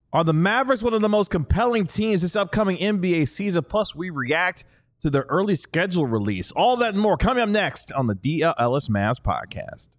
Are the Mavericks one of the most compelling teams this upcoming NBA season? Plus, we react to their early schedule release. All that and more coming up next on the DLLS Mavs podcast.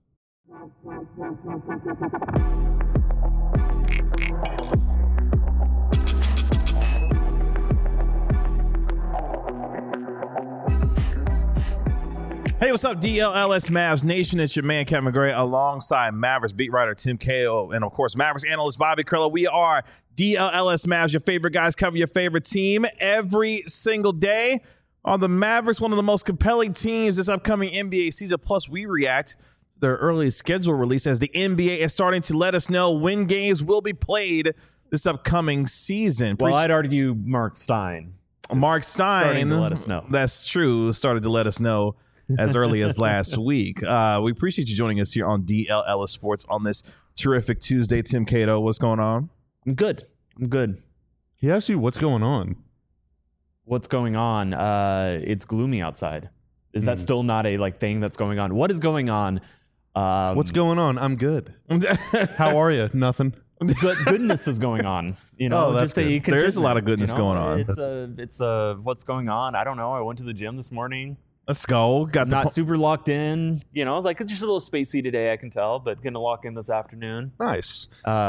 Hey, what's up, DLLS Mavs Nation? It's your man, Kevin McGray, alongside Mavericks beat writer Tim Cato, and, of course, Mavericks analyst Bobby Curlo. We are DLLS Mavs, your favorite guys, cover your favorite team every single day. Are the Mavericks one of the most compelling teams this upcoming NBA season? Plus, we react to their early schedule release as the NBA is starting to let us know when games will be played this upcoming season. Well, I'd argue Mark Stein. Mark Stein. Starting to let us know. That's true. Started to let us know as early as last week. We appreciate you joining us here on DLLS Sports on this terrific Tuesday. Tim Cato, what's going on? I'm good. He asked you what's going on. What's going on? It's gloomy outside. Is that still not a thing that's going on? What is going on? What's going on? I'm good. How are you? Nothing. Goodness is going on. That's good. There is a lot of goodness going on. It's what's going on? I don't know. I went to the gym this morning. Let's go. Not super locked in. It's just a little spacey today, I can tell, but going to lock in this afternoon. Nice.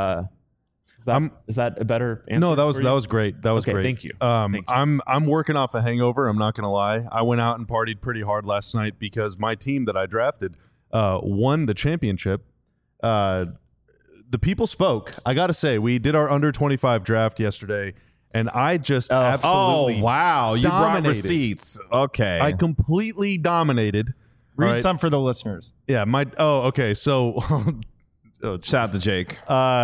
Is that a better answer? No, that was great. That was great. Thank you. I'm working off a hangover. I'm not going to lie. I went out and partied pretty hard last night because my team that I drafted won the championship. The people spoke. I got to say, we did our under 25 draft yesterday, and I just absolutely you brought dominated. receipts. Okay. I completely dominated. Read some for the listeners. Yeah. Okay. So. Shout out to Jake.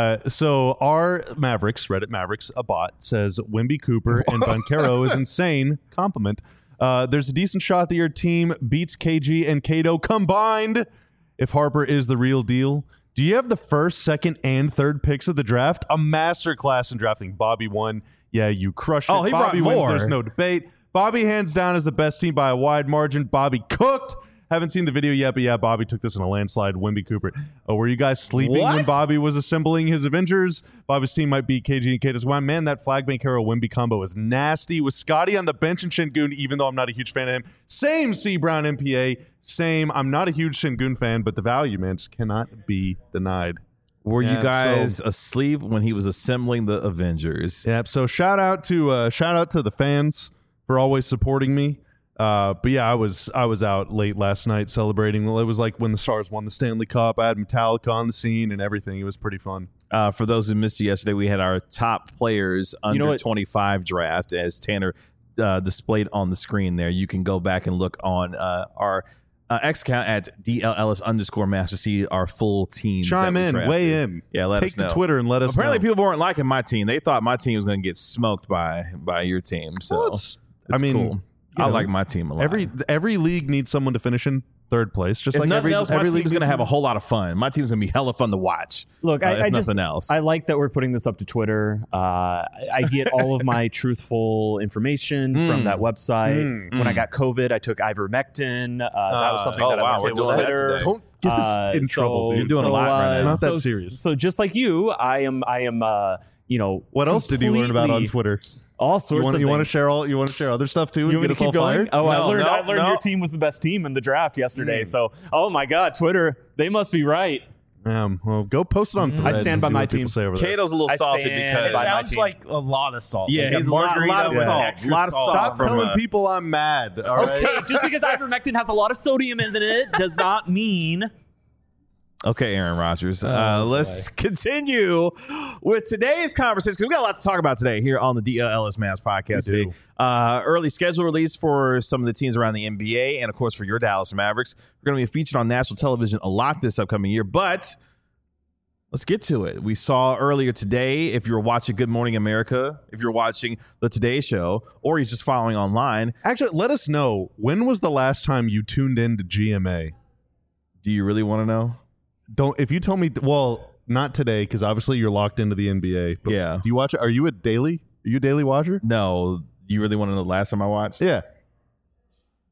So our Mavericks, Reddit Mavericks, a bot, says Wemby Cooper and Banchero is insane. Compliment. There's a decent shot that your team beats KG and Cato combined if Harper is the real deal. Do you have the first, second, and third picks of the draft? A masterclass in drafting. Bobby won. Yeah, you crushed it. Oh, he Bobby brought wins. more. There's no debate. Bobby hands down is the best team by a wide margin. Bobby cooked. Haven't seen the video yet, but yeah, Bobby took this in a landslide. Wemby Cooper. Were you guys sleeping when Bobby was assembling his Avengers? Bobby's team might beat KG and Kato's. Wow, man, that Flag Banchero Wemby combo is nasty. With Scotty on the bench and Şengün, even though I'm not a huge fan of him. Same C. Brown MPA. Same. I'm not a huge Şengün fan, but the value, man, just cannot be denied. Were you guys asleep when he was assembling the Avengers? Yeah. So shout out to the fans for always supporting me. But yeah, I was out late last night celebrating. Well, it was like when the Stars won the Stanley Cup. I had Metallica on the scene and everything. It was pretty fun. For those who missed it yesterday, we had our top players under 25 draft as Tanner displayed on the screen there. You can go back and look on our X account at DLLS_Mavs to see our full team. Chime in, weigh in. Yeah, let us know. Take to Twitter and let us know. Apparently, people weren't liking my team. They thought my team was going to get smoked by your team. So well, it's cool. I like my team a lot. Every league needs someone to finish in third place. Just if like nothing else, my every team's going to have a whole lot of fun. My team's going to be hella fun to watch. Look, nothing else. I like that we're putting this up to Twitter. I get all of my truthful information from that website. When I got COVID, I took ivermectin. That was something that I went to Twitter. Don't get us in trouble, dude. You're doing a lot right now. It's not that serious. So just like you, I am. What else did you learn about on Twitter? All sorts of things. You want to share other stuff too? You want me to keep going? Fired? Oh, I learned your team was the best team in the draft yesterday. So, oh my God, Twitter, they must be right. Well, go post it on Threads. I stand by my team. Cato's a little salty because it sounds like a lot of salt. Yeah, he's a lot of salt. A lot of salt. Stop telling people I'm mad. All right? Okay, just because ivermectin has a lot of sodium in it does not mean. Okay, Aaron Rodgers. Let's continue with today's conversation because we got a lot to talk about today here on the DLLS Mavs podcast today. Early schedule release for some of the teams around the NBA and, of course, for your Dallas Mavericks. We're going to be featured on national television a lot this upcoming year, but let's get to it. We saw earlier today, if you're watching Good Morning America, if you're watching the Today Show, or you're just following online. Actually, let us know, when was the last time you tuned in to GMA? Do you really want to know? If you tell me, well, not today because obviously you're locked into the NBA. But yeah. Do you watch it? Are you a daily watcher? No. You really want to know the last time I watched? Yeah.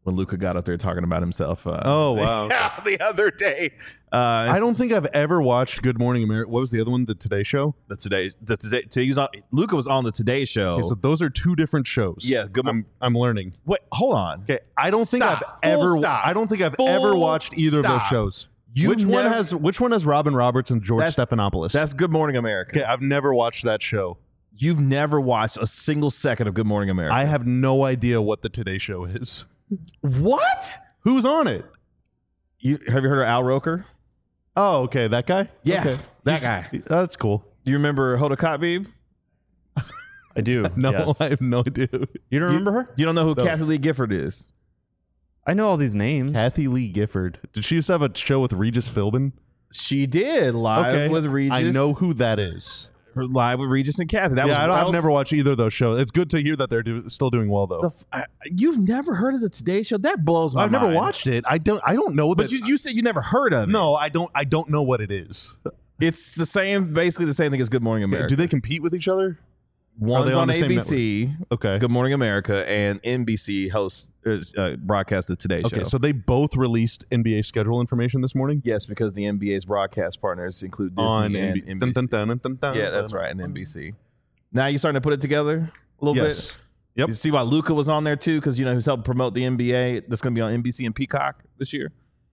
when Luca got up there talking about himself. Oh, wow. The other day. I don't think I've ever watched Good Morning America. What was the other one? The Today Show? Luca was on the Today Show. Okay, so those are two different shows. Yeah, good. I'm learning. Wait, hold on. Okay, I don't think I've Full ever watched either of those shows. Which one has Robin Roberts and George Stephanopoulos? That's Good Morning America. Okay, I've never watched that show. You've never watched a single second of Good Morning America. I have no idea what the Today Show is. What? Who's on it? Have you heard of Al Roker? Oh, okay, that guy? Yeah, okay. that guy. That's cool. Do you remember Hoda Kotb? I do. No, yes. I have no idea. You don't remember her? You don't know who Kathy Lee Gifford is? I know all these names. Kathy Lee Gifford. Did she used to have a show with Regis Philbin? She did, live with Regis. I know who that is. Live with Regis and Kathy. I've never watched either of those shows. It's good to hear that they're still doing well, though. You've never heard of the Today Show? That blows my mind. I've never watched it. I don't know that. But you said you never heard of it. No, I don't know what it is. It's basically the same thing as Good Morning America. Do they compete with each other? One's on ABC. Okay. Good Morning America, and NBC hosts broadcast the Today Show. Okay, so they both released NBA schedule information this morning? Yes, because the NBA's broadcast partners include Disney and NBC. Yeah, that's right, and NBC. Now you're starting to put it together a little bit? Yep. You see why Luca was on there too, because he's helping promote the NBA. That's going to be on NBC and Peacock this year.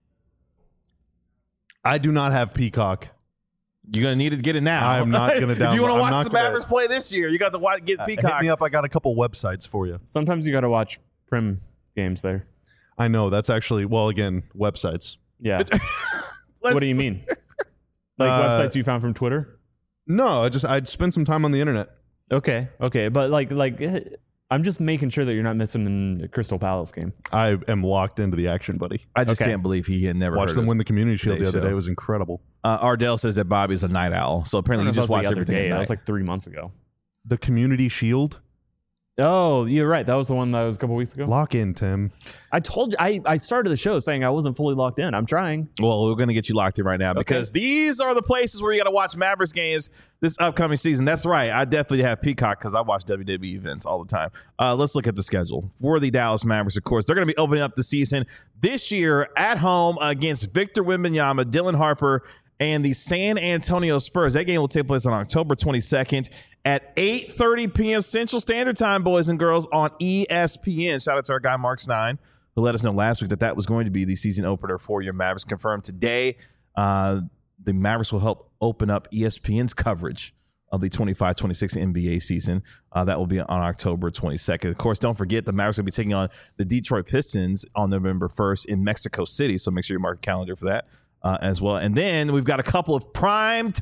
I do not have Peacock. You're going to need to get it now. I'm not going to download. If you want to watch the Mavericks play this year, you got to get Peacock. Hit me up. I got a couple websites for you. Sometimes you got to watch Prim games there. I know. That's actually, well, again, websites. Yeah. What do you mean? Like websites you found from Twitter? No, I'd spend some time on the internet. Okay. But like I'm just making sure that you're not missing a Crystal Palace game. I am locked into the action, buddy. I just can't believe he had never watched them win the Community Shield the other day. It was incredible. Ardell says that Bobby's a night owl, so apparently you just watch everything at night. That was like 3 months ago. The Community Shield? Oh, you're right. That was the one that was a couple weeks ago. Lock in, Tim. I told you. I started the show saying I wasn't fully locked in. I'm trying. Well, we're going to get you locked in right now because these are the places where you got to watch Mavericks games this upcoming season. That's right. I definitely have Peacock because I watch WWE events all the time. Let's look at the schedule for the Dallas Mavericks. Of course, they're going to be opening up the season this year at home against Victor Wembanyama, Dylan Harper, and the San Antonio Spurs. That game will take place on October 22nd at 8:30 p.m. Central Standard Time, boys and girls, on ESPN. Shout out to our guy, Mark Stein, who let us know last week that was going to be the season opener for your Mavericks. Confirmed today. The Mavericks will help open up ESPN's coverage of the 25-26 NBA season. That will be on October 22nd. Of course, don't forget the Mavericks will be taking on the Detroit Pistons on November 1st in Mexico City, so make sure you mark a calendar for that as well. And then we've got a couple of prime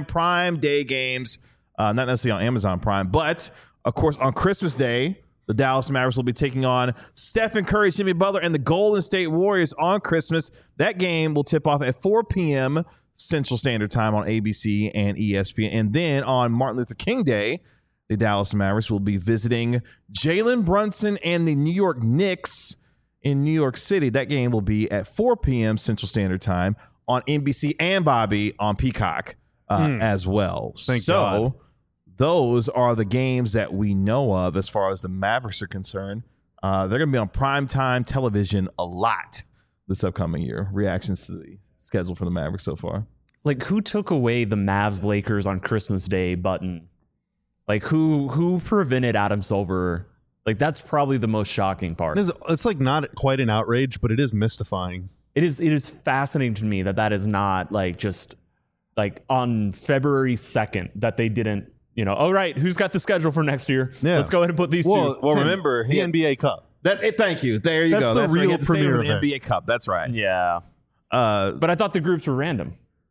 day games, not necessarily on Amazon Prime, but, of course, on Christmas Day, the Dallas Mavericks will be taking on Stephen Curry, Jimmy Butler, and the Golden State Warriors on Christmas. That game will tip off at 4 p.m. Central Standard Time on ABC and ESPN. And then on Martin Luther King Day, the Dallas Mavericks will be visiting Jalen Brunson and the New York Knicks in New York City. That game will be at 4 p.m. Central Standard Time on NBC and Bobby on Peacock as well. Thank God. Those are the games that we know of as far as the Mavericks are concerned. They're going to be on primetime television a lot this upcoming year. Reactions to the schedule for the Mavericks so far. Like, who took away the Mavs Lakers on Christmas Day button? Like, who prevented Adam Silver? Like, that's probably the most shocking part. It's like not quite an outrage, but it is mystifying. It is fascinating to me that is not like just like on February 2nd that they didn't, all right, who's got the schedule for next year? Yeah. Let's go ahead and put these two. Well, Tim, remember the NBA Cup. Thank you. There you go. That's the real premier event. The NBA Cup. That's right. Yeah. But I thought the groups were random.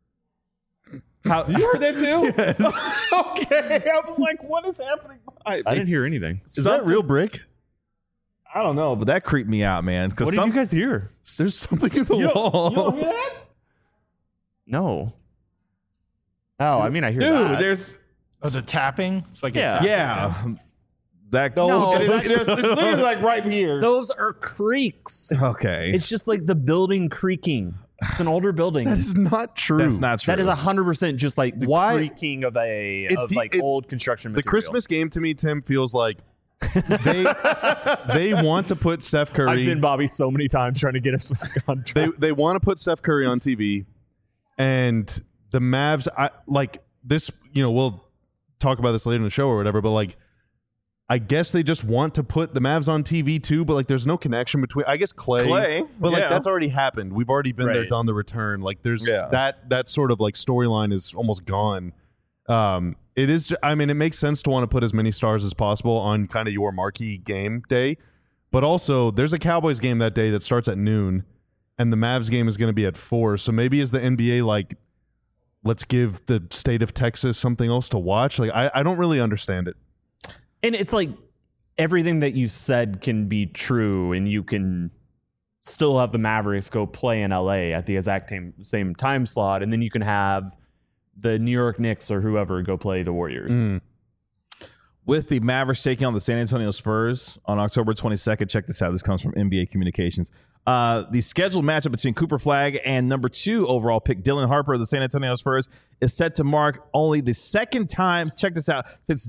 You heard that too? Yes. Okay. I was like, what is happening? I didn't hear anything. Is that real brick? I don't know, but that creeped me out, man. What did you guys hear? There's something in the wall. You don't hear that? No. Oh, I mean, I hear Dude, that. there's... Oh, the tapping? It's like Yeah. That it's literally like right here. Those are creaks. Okay. It's just like the building creaking. It's an older building. That is not true. That's not true. That is 100% just like the creaking of old construction material. The Christmas game to me, Tim, feels like They want to put Steph Curry. I've been Bobby so many times trying to get us back on track. They want to put Steph Curry on TV, and the Mavs. Like this. We'll talk about this later in the show or whatever. But like, I guess they just want to put the Mavs on TV too. But like, there's no connection between. I guess Clay. But like, that's already happened. We've already been there, done the return. Like, there's that sort of like storyline is almost gone. It is. I mean, it makes sense to want to put as many stars as possible on kind of your marquee game day, but also there's a Cowboys game that day that starts at noon, and the Mavs game is going to be at 4. So maybe as the NBA, like, let's give the state of Texas something else to watch. Like, I don't really understand it. And it's like everything that you said can be true, and you can still have the Mavericks go play in LA at the exact same time slot, and then you can have the New York Knicks or whoever go play the Warriors. With the Mavericks taking on the San Antonio Spurs on October 22nd. Check this out. This comes from NBA Communications. The scheduled matchup between Cooper Flagg and number 2 overall pick Dylan Harper of the San Antonio Spurs is set to mark only the second time, check this out, since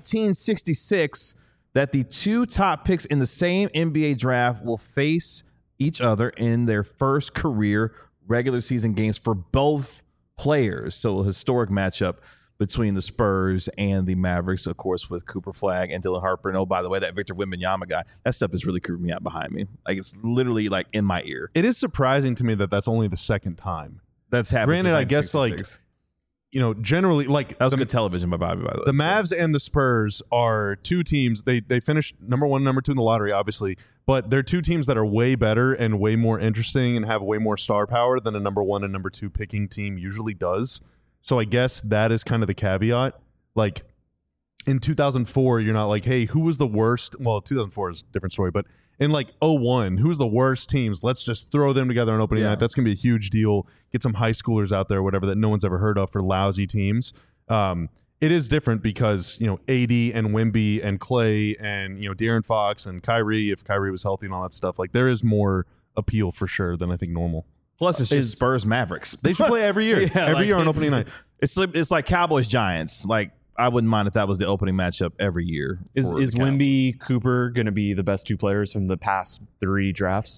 1966 that the 2 top picks in the same NBA draft will face each other in their first career regular season games for both players. So a historic matchup between the Spurs and the Mavericks, of course, with Cooper Flagg and Dylan Harper. And oh, by the way, that Victor Wembanyama guy, that stuff is really creeping me out behind me. Like, it's literally like in my ear. It is surprising to me that that's only the second time that's happened. Granted, I guess like, generally, like, that was good television by Bobby, by the way. The Mavs and the Spurs are 2 teams. They finished number 1, number 2 in the lottery, obviously, but they're 2 teams that are way better and way more interesting and have way more star power than a number 1 and number 2 picking team usually does. So I guess that is kind of the caveat. Like, in 2004, you're not like, hey, who was the worst? Well, 2004 is a different story, but in like 2001, who's the worst teams? Let's just throw them together on opening night. That's going to be a huge deal. Get some high schoolers out there, whatever, that no one's ever heard of for lousy teams. It is different because, AD and Wemby and Clay and, De'Aaron Fox and Kyrie, if Kyrie was healthy and all that stuff, like, there is more appeal for sure than I think normal. Plus, it's just Spurs Mavericks. They should play every year. Every year on opening night. It's like Cowboys Giants. Like, I wouldn't mind if that was the opening matchup every year. Is Wemby Cooper going to be the best 2 players from the past 3 drafts?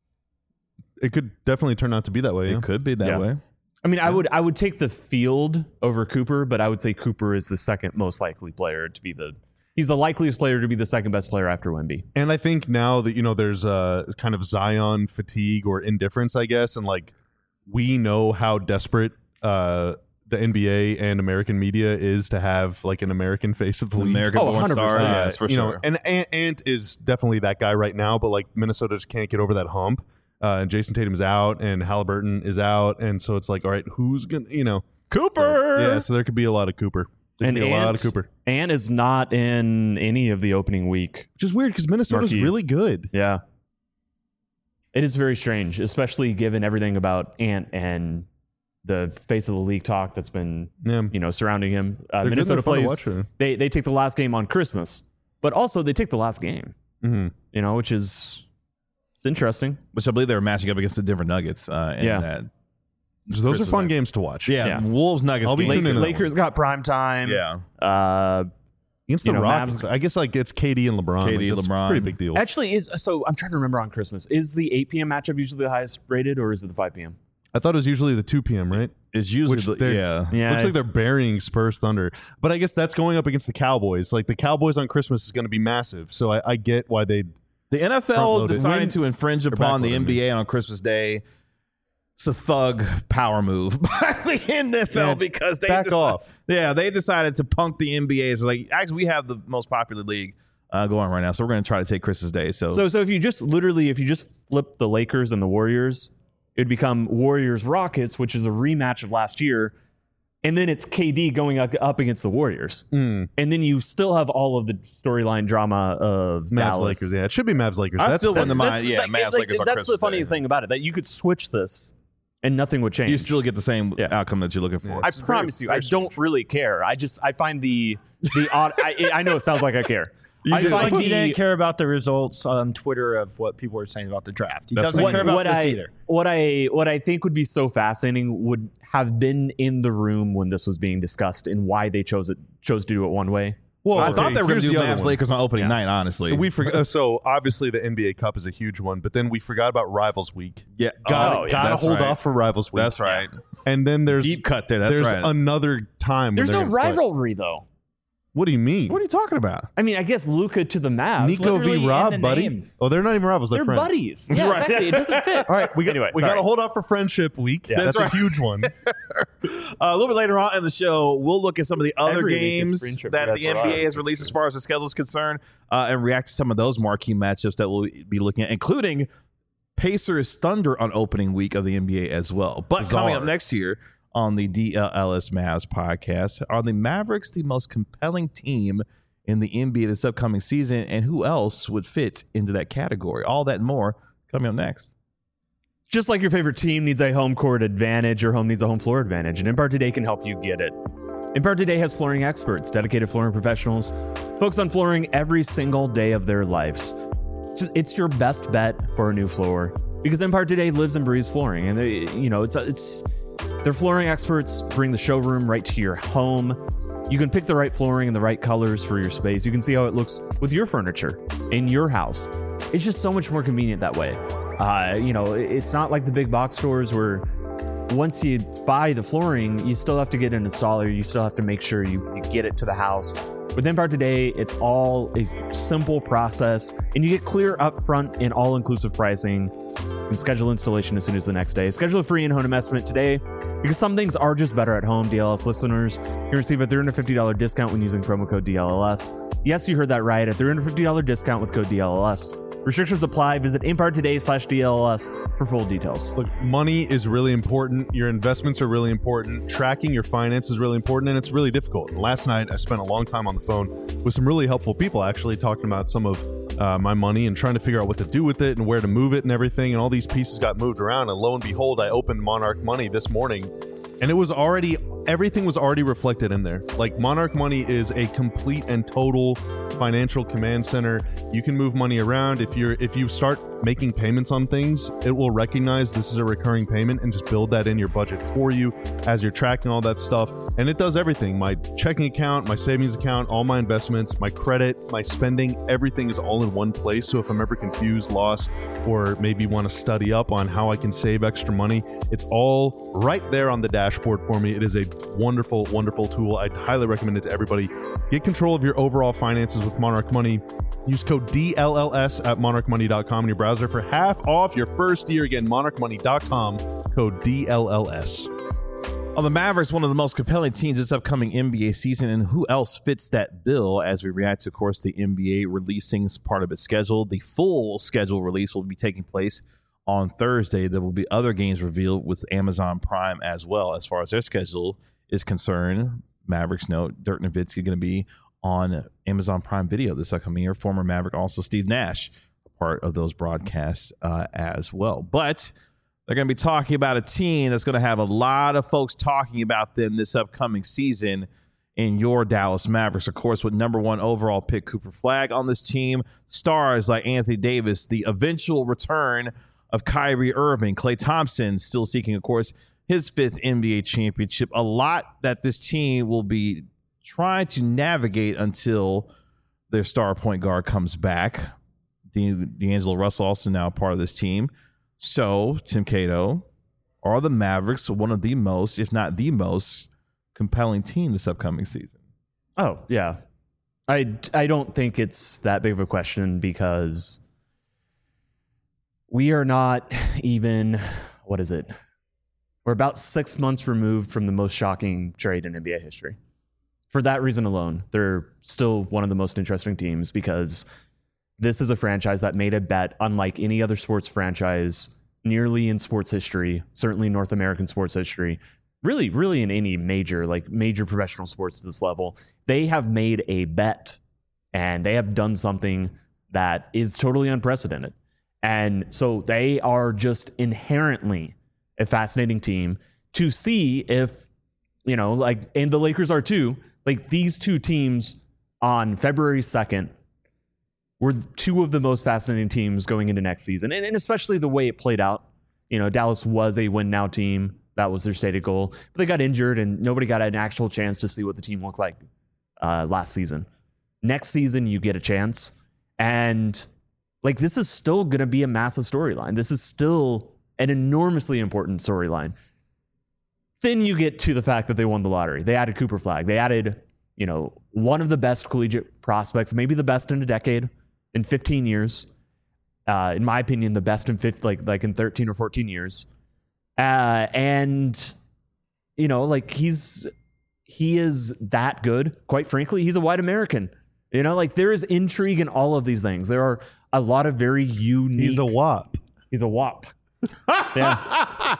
It could definitely turn out to be that way. It could be that way. I mean, I would take the field over Cooper, but I would say Cooper is the second most likely player to be he's the likeliest player to be the second best player after Wemby. And I think now that, there's a kind of Zion fatigue or indifference, I guess, and like, we know how desperate the NBA and American media is to have like an American face of the league. American-born star, yes, for sure. And Ant is definitely that guy right now, but like, Minnesota just can't get over that hump. And Jason Tatum's out, and Halliburton is out, and so it's like, all right, who's gonna, Cooper? So there could be a lot of Cooper. There could be a lot of Cooper. Ant is not in any of the opening week, which is weird because Minnesota's really good. Yeah, it is very strange, especially given everything about Ant and the face of the league talk that's been surrounding him. Minnesota plays. They take the last game on Christmas, but also they take the last game. Which is interesting. Which I believe they were matching up against the Denver Nuggets. Those are fun games to watch. Yeah. Wolves Nuggets. Lakers got prime time. Yeah. Against the Rockets, I guess like it's KD and LeBron. LeBron. Pretty big deal. Actually, so I'm trying to remember on Christmas. Is the 8 p.m. matchup usually the highest rated, or is it the 5 p.m.? I thought it was usually the 2 p.m., right? It's usually, Looks like they're burying Spurs Thunder. But I guess that's going up against the Cowboys. Like, the Cowboys on Christmas is going to be massive. So I get why they... The NFL decided to infringe upon the NBA on Christmas Day. It's a thug power move by the NFL because they off. Yeah, they decided to punk the NBA. It's like, actually, we have the most popular league going right now, so we're going to try to take Christmas Day. So if you just flip the Lakers and the Warriors, it would become Warriors Rockets, which is a rematch of last year. And then it's KD going up against the Warriors. And then you still have all of the storyline drama of Mavs Dallas. Lakers. Yeah, it should be Mavs Lakers. I still wouldn't mind. Yeah, Mavs Lakers on That's Christmas the funniest thing about it, that you could switch this and nothing would change. You still get the same outcome that you're looking for. I promise you, I don't really care. I find the odd. I know it sounds like I care. He didn't care about the results on Twitter of what people were saying about the draft. He doesn't care about this either. What I think would be so fascinating would have been in the room when this was being discussed and why they chose to do it one way. Well, I thought they were going to do Mavs Lakers on opening night, honestly. We forgot. So obviously the NBA Cup is a huge one, but then we forgot about Rivals Week. Yeah. Gotta hold off for Rivals Week. That's right. And then there's deep cut there. That's right. Another time. There's no rivalry though. What do you mean? What are you talking about? I mean, I guess Luka to the Mavs. Nico v. Rob, buddy. Name. Oh, they're not even rivals. They're friends. Buddies. Yeah, right. Exactly. It doesn't fit. All right, we got to hold off for Friendship Week. Yeah, that's right. A huge one. A little bit later on in the show, we'll look at some of the other games that the NBA has released as far as the schedule is concerned, and react to some of those marquee matchups that we'll be looking at, including Pacers Thunder on opening week of the NBA as well. But coming up next year on the DLLS Mavs podcast, are the Mavericks the most compelling team in the NBA this upcoming season, and who else would fit into that category? All that and more coming up next. Just like your favorite team needs a home court advantage, your home needs a home floor advantage, and Empire Today can help you get it. Empire Today has flooring experts, dedicated flooring professionals, focused on flooring every single day of their lives. It's your best bet for a new floor because Empire Today lives and breathes flooring, and it's their flooring experts bring the showroom right to your home. You can pick the right flooring and the right colors for your space. You can see how it looks with your furniture in your house. It's just so much more convenient that way. It's not like the big box stores where once you buy the flooring, you still have to get an installer. You still have to make sure you get it to the house. With Empire Today, it's all a simple process, and you get clear upfront and all-inclusive pricing and schedule installation as soon as the next day. Schedule a free in-home estimate today because some things are just better at home. DLS listeners can receive a $350 discount when using promo code DLLS. Yes, you heard that right. A $350 discount with code DLLS. Restrictions apply. Visit EmpireToday.com/DLLS for full details. Look, money is really important. Your investments are really important. Tracking your finances is really important, and it's really difficult. And last night, I spent a long time on the phone with some really helpful people, actually talking about some of my money and trying to figure out what to do with it and where to move it and everything. And all these pieces got moved around. And lo and behold, I opened Monarch Money this morning, and it was everything was already reflected in there. Like, Monarch Money is a complete and total financial command center. You can move money around. If you start making payments on things, it will recognize this is a recurring payment and just build that in your budget for you as you're tracking all that stuff. And it does everything. My checking account, my savings account, all my investments, my credit, my spending, everything is all in one place. So if I'm ever confused, lost, or maybe want to study up on how I can save extra money, it's all right there on the dashboard for me. It is a wonderful, wonderful tool. I'd highly recommend it to everybody. Get control of your overall finances with Monarch Money. Use code DLLS at monarchmoney.com in your browser for half off your first year. Again, monarchmoney.com, code DLLS. On the Mavericks, one of the most compelling teams this upcoming NBA season, and who else fits that bill as we react to, of course, the NBA releasing part of its schedule. The full schedule release will be taking place on Thursday. There will be other games revealed with Amazon Prime as well as far as their schedule is concerned. Mavericks note Dirk Nowitzki going to be on Amazon Prime Video this upcoming year. Former Maverick, also Steve Nash, part of those broadcasts as well. But they're going to be talking about a team that's going to have a lot of folks talking about them this upcoming season in your Dallas Mavericks. Of course, with number 1 overall pick Cooper Flagg on this team, stars like Anthony Davis, the eventual return of Kyrie Irving, Klay Thompson still seeking, of course, his 5th NBA championship. A lot that this team will be trying to navigate until their star point guard comes back. D'Angelo Russell also now part of this team. So, Tim Cato, are the Mavericks one of the most, if not the most, compelling team this upcoming season? Oh, yeah. I don't think it's that big of a question because we are not even, what is it? We're about 6 months removed from the most shocking trade in NBA history. For that reason alone, they're still one of the most interesting teams because this is a franchise that made a bet unlike any other sports franchise nearly in sports history, certainly North American sports history, really in any major professional sports to this level. They have made a bet and they have done something that is totally unprecedented. And so they are just inherently a fascinating team to see if, and the Lakers are too, like these two teams on February 2nd were 2 of the most fascinating teams going into next season. And especially the way it played out. Dallas was a win now team. That was their stated goal. But they got injured and nobody got an actual chance to see what the team looked like last season. next season you get a chance. And like, this is still going to be a massive storyline. This is still an enormously important storyline. Then you get to the fact that they won the lottery. They added Cooper Flagg. They added, one of the best collegiate prospects, maybe the best in a decade, in 15 years. In my opinion, the best in like in 13 or 14 years. And he is that good. Quite frankly, he's a white American. There is intrigue in all of these things. There are a lot of very unique. He's a WAP. He's a WAP. Yeah.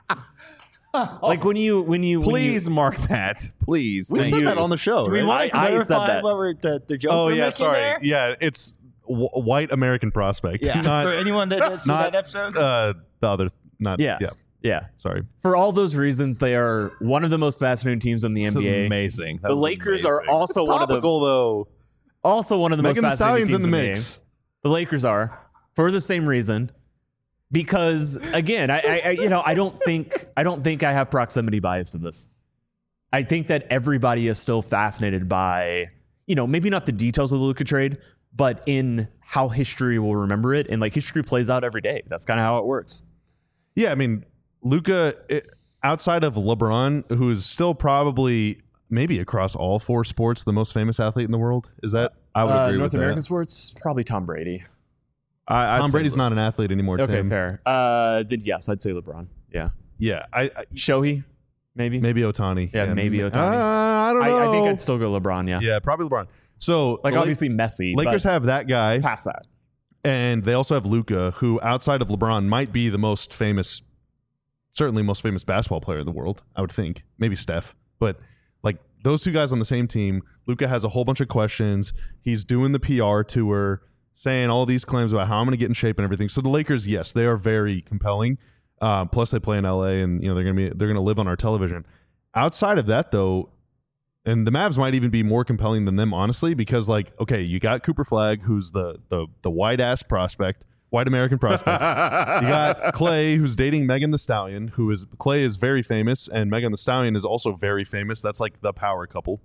Like when you please mark that. Please. We said that on the show. Do we want to clarify what we're the joke? Oh yeah, making sorry. there? Yeah, it's white American prospect. Yeah. Not, for anyone that didn't see that episode. The other, not. Yeah. Yeah. Sorry. For all those reasons, they are one of the most fascinating teams in the NBA. Amazing. The Lakers are also it's one of the though. Also one of the Megan most fascinating teams in the in mix. The Lakers are for the same reason. Because again, I don't think I have proximity bias to this. I think that everybody is still fascinated by, maybe not the details of the Luka trade, but in how history will remember it. And like history plays out every day. That's kind of how it works. Yeah, I mean, Luka, outside of LeBron, who is still probably maybe across all 4 sports the most famous athlete in the world. Is that? I would agree North with American that. sports, probably Tom Brady. Tom Brady's not an athlete anymore. Okay, Tim. fair. Then yes, I'd say LeBron. Yeah. Yeah. Shohei, maybe Otani. Yeah, maybe Otani. I don't know. I think I'd still go LeBron. Yeah. Yeah, probably LeBron. So like obviously Messi. Lakers have that guy. Past that. And they also have Luka, who outside of LeBron might be the most famous, certainly most famous basketball player in the world, I would think. Maybe Steph. But like those 2 guys on the same team, Luka has a whole bunch of questions. He's doing the PR tour, saying all these claims about how I'm going to get in shape and everything. So the Lakers, yes, they are very compelling. Plus they play in LA and they're going to live on our television. Outside of that though, and the Mavs might even be more compelling than them, honestly, because like, okay, you got Cooper Flagg, who's the white ass prospect, white American prospect. You got Clay, who's dating Megan Thee Stallion, Clay is very famous, and Megan Thee Stallion is also very famous. That's like the power couple,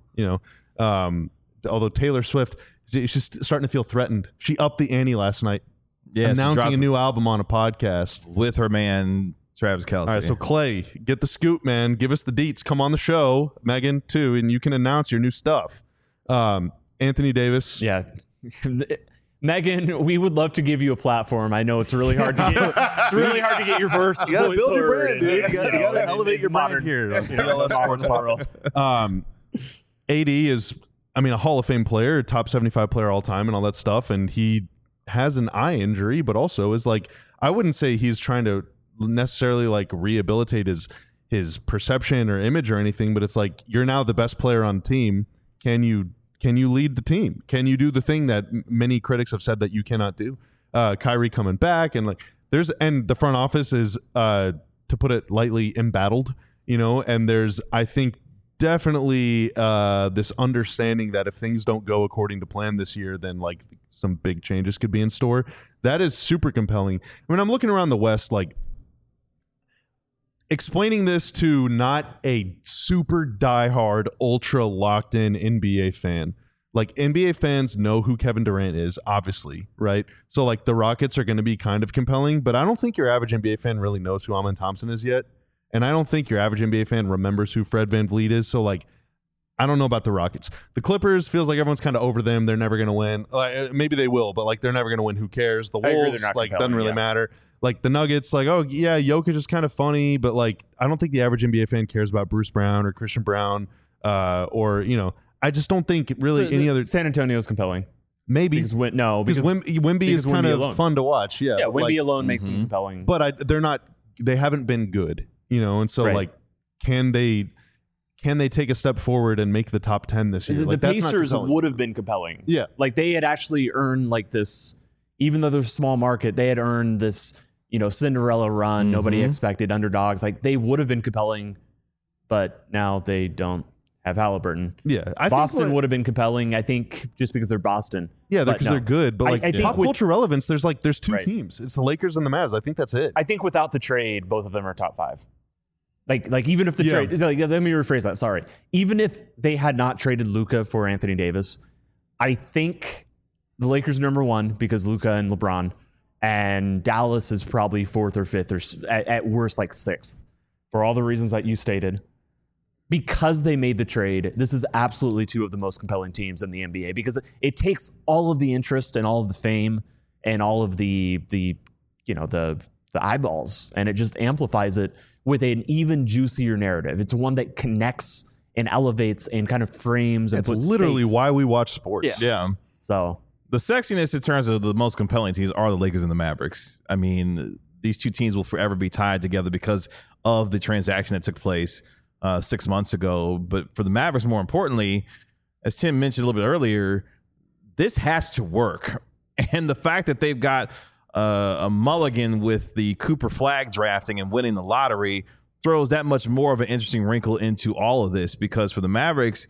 although Taylor Swift, she's starting to feel threatened. She upped the ante last night, announcing a new album on a podcast with her man Travis Kelce. All right, so Clay, get the scoop, man. Give us the deets. Come on the show, Megan too, and you can announce your new stuff. Anthony Davis, yeah. Megan, we would love to give you a platform. I know it's really hard to get. It's really hard to get your first. You got to build your brand, dude. You got to elevate your brand here. AD is, a Hall of Fame player, top 75 player all time, and all that stuff. And he has an eye injury, but also is like, I wouldn't say he's trying to necessarily like rehabilitate his perception or image or anything, but it's like, you're now the best player on the team. Can you lead the team? Can you do the thing that many critics have said that you cannot do? Kyrie coming back, and like and the front office is, to put it lightly, embattled, and there's, I think, definitely this understanding that if things don't go according to plan this year, then like some big changes could be in store. That is super compelling. I'm looking around the West, like explaining this to not a super diehard, ultra locked in NBA fan. Like NBA fans know who Kevin Durant is, obviously, right? So like the Rockets are going to be kind of compelling, but I don't think your average NBA fan really knows who Amen Thompson is yet. And I don't think your average NBA fan remembers who Fred VanVleet is. So like, I don't know about the Rockets. The Clippers feels like everyone's kind of over them. They're never going to win. Maybe they will, but like they're never going to win. Who cares? The Wolves, like, doesn't really matter. Like the Nuggets, like, oh yeah, Jokic is kind of funny, but like I don't think the average NBA fan cares about Bruce Brown or Christian Brown, or I just don't think really any other. San Antonio is compelling. Maybe because Wemby is kind of alone. Fun to watch. Yeah, Wemby alone makes them compelling. But they're not. They haven't been good, and so like, can they take a step forward and make the top 10 this year? The Pacers would have been compelling. Yeah, like they had actually earned like this, even though they're a small market, they had earned this. Cinderella run, nobody expected, underdogs. Like they would have been compelling, but now they don't have Halliburton. Yeah, Boston would have been compelling, I think, just because they're Boston. Yeah, because they're good. But like I think pop culture relevance, there's two teams. It's the Lakers and the Mavs. I think that's it. I think without the trade, both of them are top 5. Like even if the trade, let me rephrase that. Sorry, even if they had not traded Luka for Anthony Davis, I think the Lakers are number 1 because Luka and LeBron, and Dallas is probably 4th or 5th or at worst like 6th for all the reasons that you stated. Because they made the trade, this is absolutely 2 of the most compelling teams in the NBA because it takes all of the interest and all of the fame and all of the eyeballs, and it just amplifies it with an even juicier narrative. It's one that connects and elevates and kind of frames and puts literally stakes. Why we watch sports. Yeah. So the sexiness in terms of the most compelling teams are the Lakers and the Mavericks. I mean, these 2 teams will forever be tied together because of the transaction that took place 6 months ago. But for the Mavericks, more importantly, as Tim mentioned a little bit earlier, this has to work. And the fact that they've got a mulligan with the Cooper Flag drafting and winning the lottery throws that much more of an interesting wrinkle into all of this, because for the Mavericks,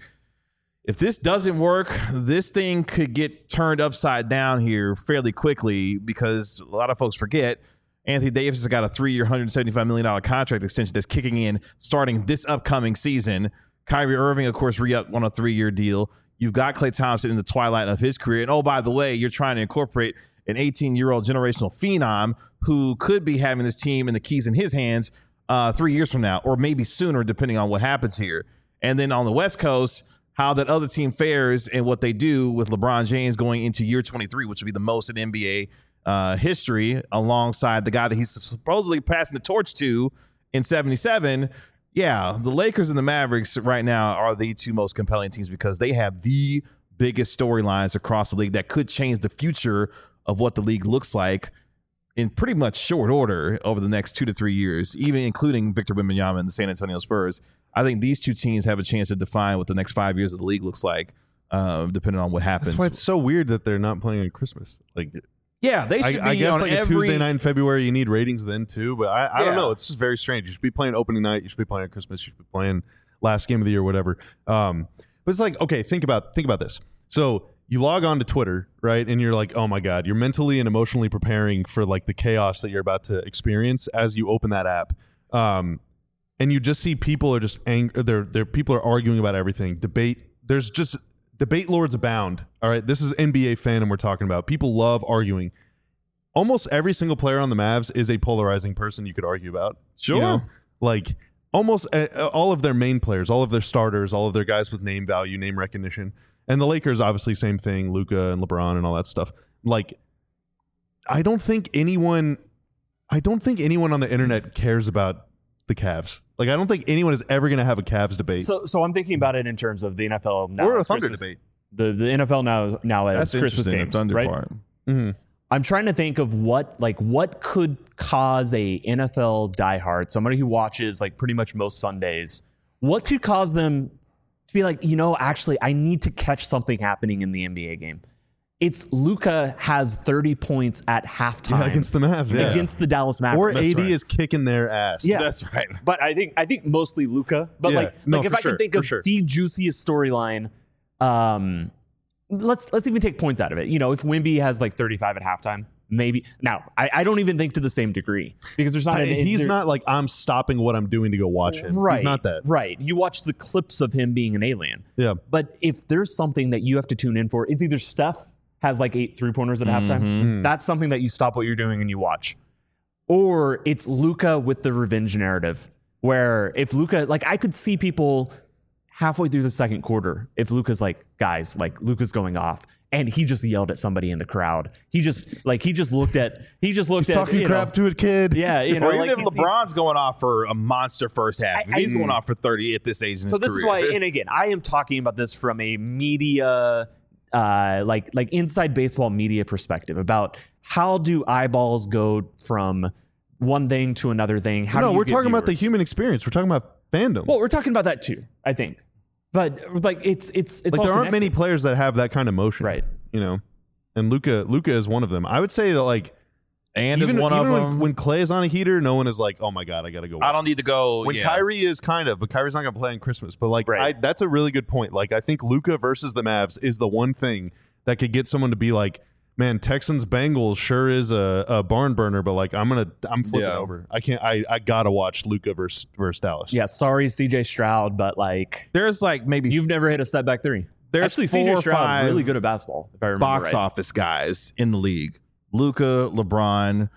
if this doesn't work, this thing could get turned upside down here fairly quickly, because a lot of folks forget Anthony Davis has got a 3-year, $175 million contract extension that's kicking in starting this upcoming season. Kyrie Irving, of course, re-upped on a 3-year deal. You've got Klay Thompson in the twilight of his career. And, oh, by the way, you're trying to incorporate an 18-year-old generational phenom who could be having this team and the keys in his hands 3 years from now, or maybe sooner, depending on what happens here. And then on the West Coast, how that other team fares and what they do with LeBron James going into year 23, which would be the most in NBA history, alongside the guy that he's supposedly passing the torch to in 77. Yeah, the Lakers and the Mavericks right now are the 2 most compelling teams because they have the biggest storylines across the league that could change the future of what the league looks like in pretty much short order over the next 2 to 3 years, even including Victor Wembanyama and the San Antonio Spurs. I think these 2 teams have a chance to define what the next 5 years of the league looks like, depending on what happens. That's why it's so weird that they're not playing on Christmas. Like, yeah, they should be. I guess on like every... a Tuesday night in February, you need ratings then too. But I don't know. It's just very strange. You should be playing opening night. You should be playing on Christmas. You should be playing last game of the year, whatever. But it's like, okay, think about this. So you log on to Twitter, right? And you're like, oh my God, you're mentally and emotionally preparing for like the chaos that you're about to experience as you open that app. And you just see people are just angry. People are arguing about everything. Debate. There's just debate lords abound. All right. This is NBA fandom we're talking about. People love arguing. Almost every single player on the Mavs is a polarizing person you could argue about. Sure. You know? Like almost all of their main players, all of their starters, all of their guys with name value, name recognition. And the Lakers, obviously, same thing, Luka and LeBron and all that stuff. Like, I don't think anyone on the internet cares about the Cavs. Like, I don't think anyone is ever going to have a Cavs debate. So I'm thinking about it in terms of the NFL now. Or a Thunder debate. The NFL now as Christmas games, Thunder right? Part. Mm-hmm. I'm trying to think of what could cause a NFL diehard, somebody who watches like pretty much most Sundays, what could cause them to be like, actually, I need to catch something happening in the NBA game. It's Luka has 30 points at halftime against the Mavs, against the Dallas Mavericks. Or AD is kicking their ass. Yeah, that's right. But I think mostly Luka. But if I can think of the juiciest storyline, let's even take points out of it. If Wemby has like 35 at halftime, maybe. Now, I don't even think to the same degree because there's not. He's not like I'm stopping what I'm doing to go watch him. Right, he's not that. Right. You watch the clips of him being an alien. Yeah. But if there's something that you have to tune in for, it's either Steph has like 8 3-pointers at halftime. That's something that you stop what you're doing and you watch. Or it's Luka with the revenge narrative, where if Luka, like I could see people halfway through the second quarter, if Luka's like, guys, like Luka's going off, and he just yelled at somebody in the crowd. He just looked at talking crap to a kid. Yeah, or even if LeBron's going off for a monster first half, he's going off for 30 at this age in his career. So this is why, and again, I am talking about this from a media, like inside baseball media perspective about how do eyeballs go from one thing to another thing. We're talking about the human experience. We're talking about fandom. Well, we're talking about that too, I think. But like it's like there aren't many players that have that kind of motion, right? And Luka is one of them. I would say that like, and even of them. When Klay is on a heater, no one is like, oh my God, I gotta go. I don't need to go. When Kyrie is but Kyrie's not gonna play on Christmas. But like, that's a really good point. Like, I think Luka versus the Mavs is the one thing that could get someone to be like, man, Texans Bengals sure is a barn burner, but like I'm flipping over. I gotta watch Luka versus Dallas. Yeah, sorry CJ Stroud, but like there's like maybe you've never hit a step back three. there's actually 4 CJ or Stroud 5 really good at basketball, if I remember box right. office guys in the league. Luka, LeBron,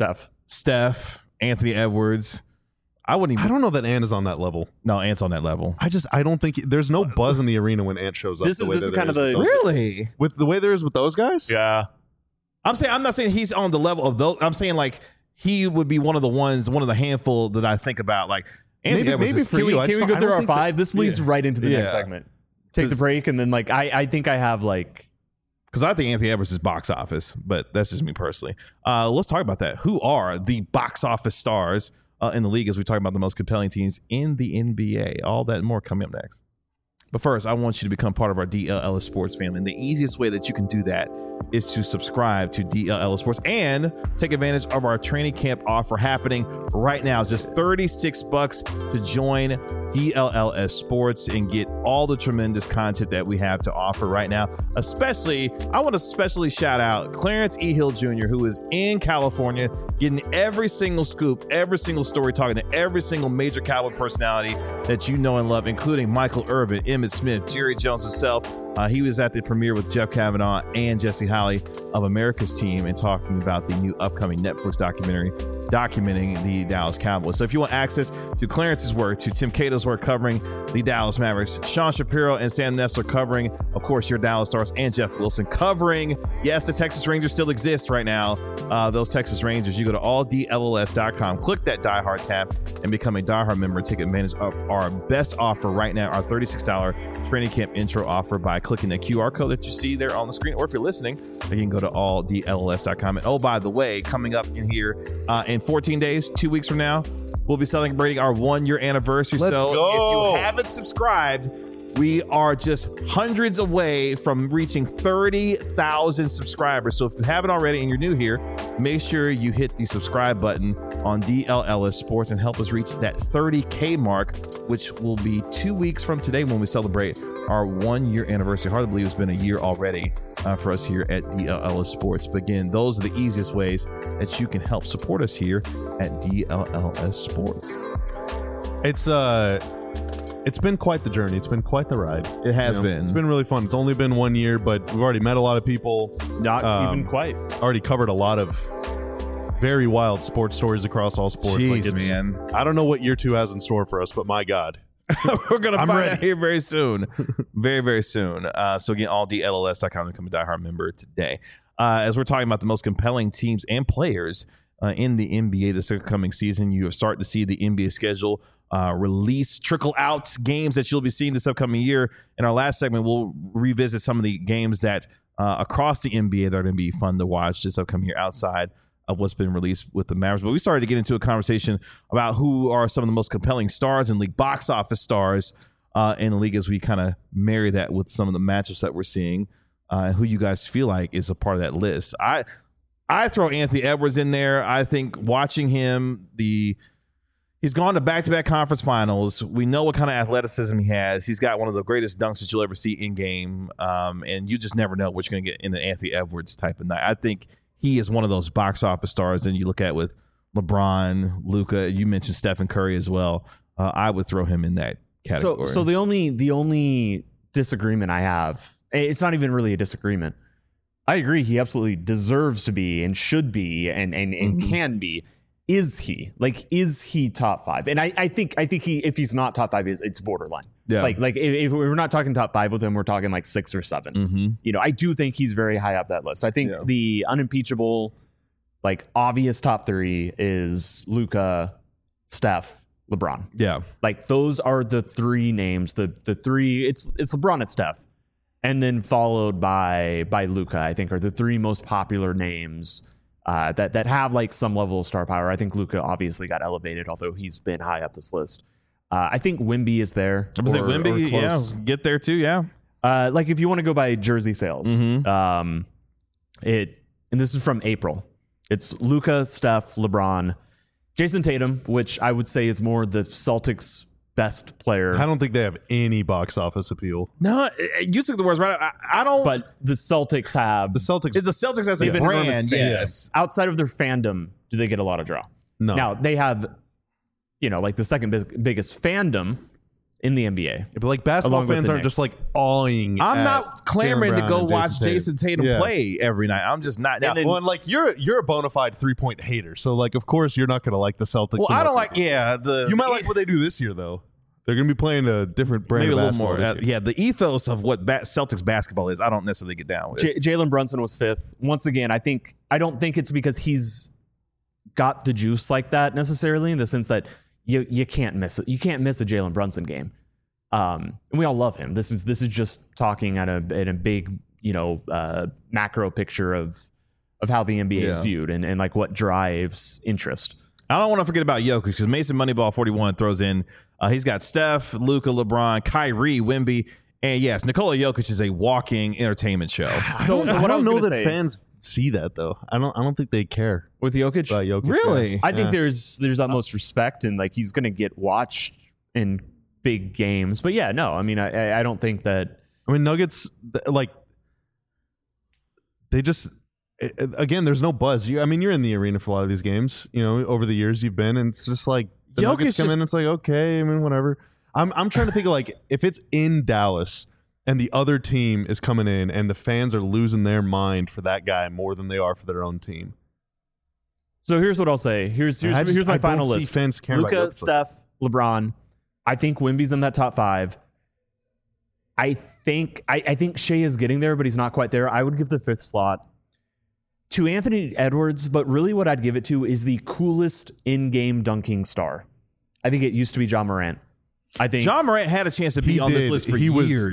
Steph, Anthony Edwards. I don't know that Ant is on that level. No, Ant's on that level. I don't think there's no buzz in the arena when Ant shows up. This is kind of the really with the way there is with those guys. Yeah, I'm not saying he's on the level of those. I'm saying like he would be one of the handful that I think about. Like Anthony Edwards maybe for you. Can we go through our 5? This leads right into the next segment. Take the break and then like I think I have like. Because I think Anthony Edwards is box office, but that's just me personally. Let's talk about that. Who are the box office stars in the league as we talk about the most compelling teams in the NBA? All that and more coming up next. But first, I want you to become part of our DLLS Sports family. And the easiest way that you can do that is to subscribe to DLLS Sports and take advantage of our training camp offer happening right now. It's just $36 to join DLLS Sports and get all the tremendous content that we have to offer right now. I want to especially shout out Clarence E. Hill Jr., who is in California, getting every single scoop, every single story, talking to every single major Cowboy personality that you know and love, including Michael Irvin, Emmitt Smith, Jerry Jones himself. He was at the premiere with Jeff Kavanaugh and Jesse Holley of America's Team and talking about the new upcoming Netflix documentary documenting the Dallas Cowboys. So if you want access to Clarence's work, to Tim Cato's work covering the Dallas Mavericks, Sean Shapiro and Sam Nessler covering, of course, your Dallas Stars, and Jeff Wilson covering, yes, the Texas Rangers still exist right now. Those Texas Rangers, you go to alldlls.com, click that Die Hard tab, and become a Die Hard member. Take advantage of our best offer right now, our $36 training camp intro offer by clicking the QR code that you see there on the screen. Or if you're listening, you can go to alldlls.com. And oh, by the way, coming up in here in 14 days, 2 weeks from now, we'll be celebrating our 1-year anniversary. Let's go. If you haven't subscribed, we are just hundreds away from reaching 30,000 subscribers. So if you haven't already and you're new here, make sure you hit the subscribe button on DLLS Sports and help us reach that 30K mark, which will be 2 weeks from today when we celebrate our 1-year anniversary. Hard to believe it's been a year already for us here at DLLS Sports. But again, those are the easiest ways that you can help support us here at DLLS Sports. It's been quite the journey. It's been quite the ride. It has been. It's been really fun. It's only been 1 year, but we've already met a lot of people. Not even quite. Already covered a lot of very wild sports stories across all sports. Jeez, man. I don't know what year 2 has in store for us, but my God. We're going to find out here very soon. Very, very soon. So again, alldlls.com to become a diehard member today. As we're talking about the most compelling teams and players in the NBA this upcoming season, you are starting to see the NBA schedule trickle out games that you'll be seeing this upcoming year. In our last segment, we'll revisit some of the games that across the NBA that are going to be fun to watch this upcoming year outside of what's been released with the Mavericks. But we started to get into a conversation about who are some of the most compelling stars in league, box office stars in the league, as we kind of marry that with some of the matchups that we're seeing, and who you guys feel like is a part of that list. I throw Anthony Edwards in there. I think watching him, he's gone to back-to-back conference finals. We know what kind of athleticism he has. He's got one of the greatest dunks that you'll ever see in game, and you just never know what you're going to get in an Anthony Edwards type of night. I think he is one of those box office stars. And you look at with LeBron, Luka. You mentioned Stephen Curry as well. I would throw him in that category. So the only disagreement I have, it's not even really a disagreement. I agree. He absolutely deserves to be and should be and can be. Is he top 5? And I think he, if he's not top 5, it's borderline. Yeah. Like if we're not talking top 5 with him, we're talking like 6 or 7. Mm-hmm. I do think he's very high up that list. I think the unimpeachable, like obvious top 3 is Luka, Steph, LeBron. Yeah. Like those are the 3 names. The 3, it's LeBron and Steph. And then followed by Luka, I think, are the 3 most popular names that have like some level of star power. I think Luka obviously got elevated, although he's been high up this list. I think Wemby is there. I was like Wemby, yeah, get there too, yeah. Like if you want to go by jersey sales, Mm-hmm. and this is from April. It's Luka, Steph, LeBron, Jason Tatum, which I would say is more the Celtics' best player. I don't think they have any box office appeal. No, you took the words right. I don't. But the Celtics have The Celtics. It's the Celtics as a brand, yes. outside of their fandom, do they get a lot of draw? No. Now they have, like the second biggest fandom in the NBA. But like basketball fans aren't just like awing. I'm not clamoring to go watch Jason Tatum play every night. I'm just not. Now, well, like you're a bona fide 3-point hater, so like of course you're not going to like the Celtics. Well, I don't like. Yeah, you might like what they do this year though. They're going to be playing a different brand of basketball. Maybe a little more. Yeah, the ethos of what Celtics basketball is, I don't necessarily get down with. Jalen Brunson was 5th. Once again, I don't think it's because he's got the juice like that necessarily, in the sense that you can't miss it. You can't miss a Jalen Brunson game. And we all love him. This is just talking at a big, macro picture of how the NBA is viewed and like what drives interest. I don't want to forget about Jokic, because Mason Moneyball 41 throws in. He's got Steph, Luka, LeBron, Kyrie, Wemby, and yes, Nikola Jokic is a walking entertainment show. I don't know that fans see that though. I don't think they care with Jokic. About Jokic, really? I think there's utmost respect, and like he's going to get watched in big games. But yeah, no, I mean, I don't think that. I mean, Nuggets, like they just. Again, there's no buzz. You're in the arena for a lot of these games. Over the years you've been, and it's just like the Nuggets come in. It's like, okay, I mean, whatever. I'm trying to think of like if it's in Dallas and the other team is coming in and the fans are losing their mind for that guy more than they are for their own team. So here's what I'll say. Here's my final list: Luka, Steph, LeBron. I think Wemby's in that top 5. I think Shea is getting there, but he's not quite there. I would give the 5th slot to Anthony Edwards, but really what I'd give it to is the coolest in-game dunking star. I think it used to be Ja Morant. I think Ja Morant had a chance to be on this list for years.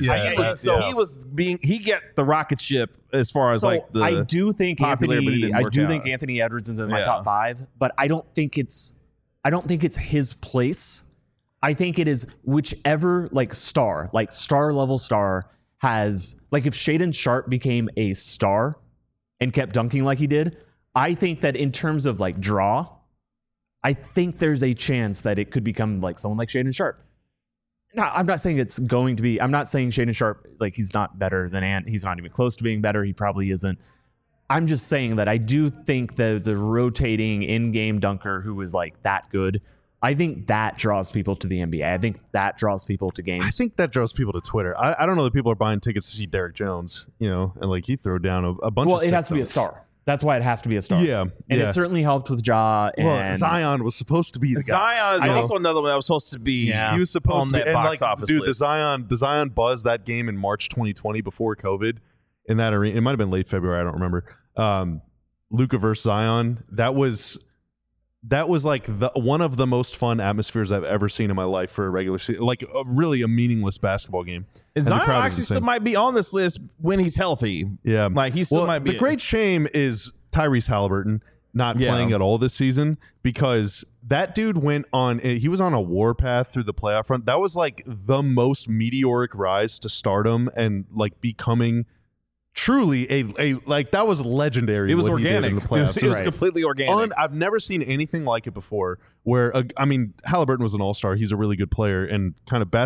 He got the rocket ship as far as I do think Anthony Edwards is in my top 5, but I don't think it's his place. I think it is whichever star level star has, like if Shaedon Sharpe became a star and kept dunking like he did, I think that in terms of draw, I think there's a chance that it could become someone like Shaedon Sharpe. Now, I'm not saying it's going to be. I'm not saying Shaedon Sharpe he's not better than Ant. He's not even close to being better. He probably isn't. I'm just saying that I do think the rotating in-game dunker who is that good, I think that draws people to the NBA. I think that draws people to games. I think that draws people to Twitter. I don't know that people are buying tickets to see Derrick Jones, and he threw down a bunch of. Well, it has to be a star. That's why it has to be a star. Yeah. And it certainly helped with Ja. And Zion was supposed to be the guy. Zion is also another one that was supposed to be. Yeah. He was supposed on that box office dude, list. the Zion buzz that game in March 2020 before COVID in that arena. It might have been late February. I don't remember. Luka versus Zion. That was one of the most fun atmospheres I've ever seen in my life for a regular season, really a meaningless basketball game. And Zion actually still might be on this list when he's healthy. Yeah, he still might be. The great shame is Tyrese Halliburton not playing at all this season, because that dude he was on a warpath through the playoff run. That was the most meteoric rise to stardom and becoming truly a that was legendary. It was organic. In the playoffs. It was completely organic. I've never seen anything like it before. Where Halliburton was an all-star. He's a really good player, and kind of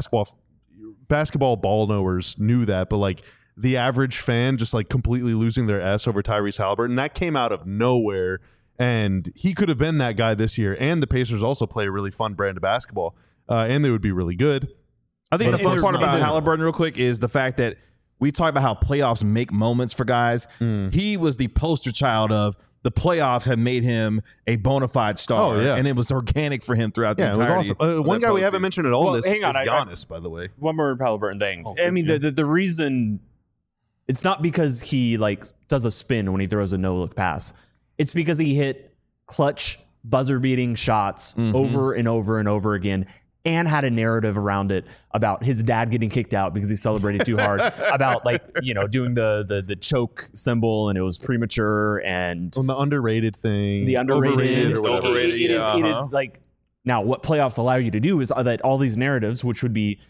basketball ball knowers knew that. But the average fan just completely losing their ass over Tyrese Halliburton, that came out of nowhere. And he could have been that guy this year. And the Pacers also play a really fun brand of basketball, and they would be really good. I think the fun part about Halliburton, real quick, is the fact that we talk about how playoffs make moments for guys. He was the poster child of the playoffs have made him a bona fide star. Oh, yeah. And it was organic for him throughout the entirety. It was awesome. One guy we haven't mentioned at all is Giannis, by the way. One more Halliburton thing. The reason, it's not because he does a spin when he throws a no-look pass. It's because he hit clutch, buzzer-beating shots over and over and over again, and had a narrative around it about his dad getting kicked out because he celebrated too hard, about doing the choke symbol and it was premature, and on the underrated thing, the underrated or whatever. It is now what playoffs allow you to do is that all these narratives, which would be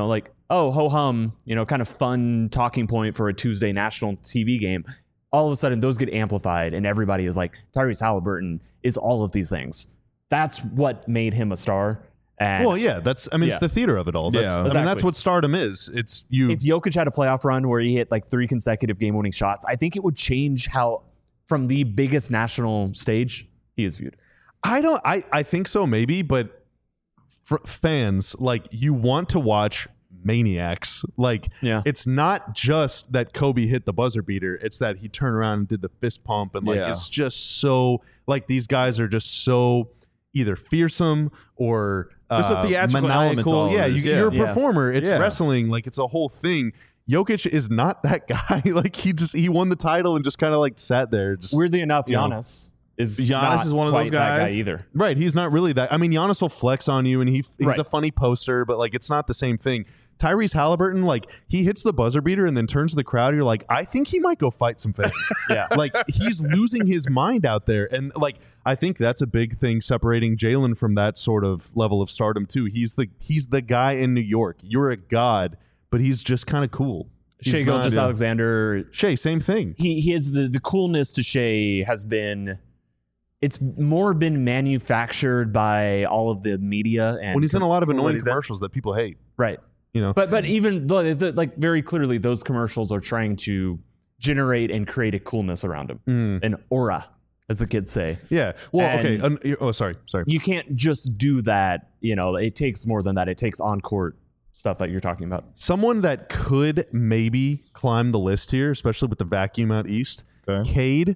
oh ho hum, kind of fun talking point for a Tuesday national TV game, all of a sudden those get amplified and everybody is like, Tyrese Halliburton is all of these things. That's what made him a star. And it's the theater of it all. That's what stardom is. It's you. If Jokic had a playoff run where he hit 3 consecutive game-winning shots, I think it would change how, from the biggest national stage, he is viewed. I think so, maybe, but fans, like, you want to watch maniacs. Like, it's not just that Kobe hit the buzzer beater, it's that he turned around and did the fist pump, and like it's just so, like, these guys are just so either fearsome or there's a theatrical element to all you're a performer. It's wrestling, like, it's a whole thing. Jokic is not that guy. Like, he won the title and just kind of like sat there. Just, weirdly enough, Giannis is one of those guys either. Right, he's not really that. I mean, Giannis will flex on you, and he's a funny poster, but like, it's not the same thing. Tyrese Halliburton, like, he hits the buzzer beater and then turns to the crowd. You're like, I think he might go fight some fans. Like, he's losing his mind out there. And like, I think that's a big thing separating Jalen from that sort of level of stardom too. He's the guy in New York. You're a god, but he's just kind of cool. Shai Gilgeous-Alexander. Shai, same thing. He is the coolness to Shai has been, it's more been manufactured by all of the media. And when he's in a lot of annoying commercials that people hate. Right. You know, but even like very clearly, those commercials are trying to generate and create a coolness around him, an aura, as the kids say. Yeah. Well, and sorry. You can't just do that. You know, it takes more than that. It takes on-court stuff that you're talking about. Someone that could maybe climb the list here, especially with the vacuum out east, Cade.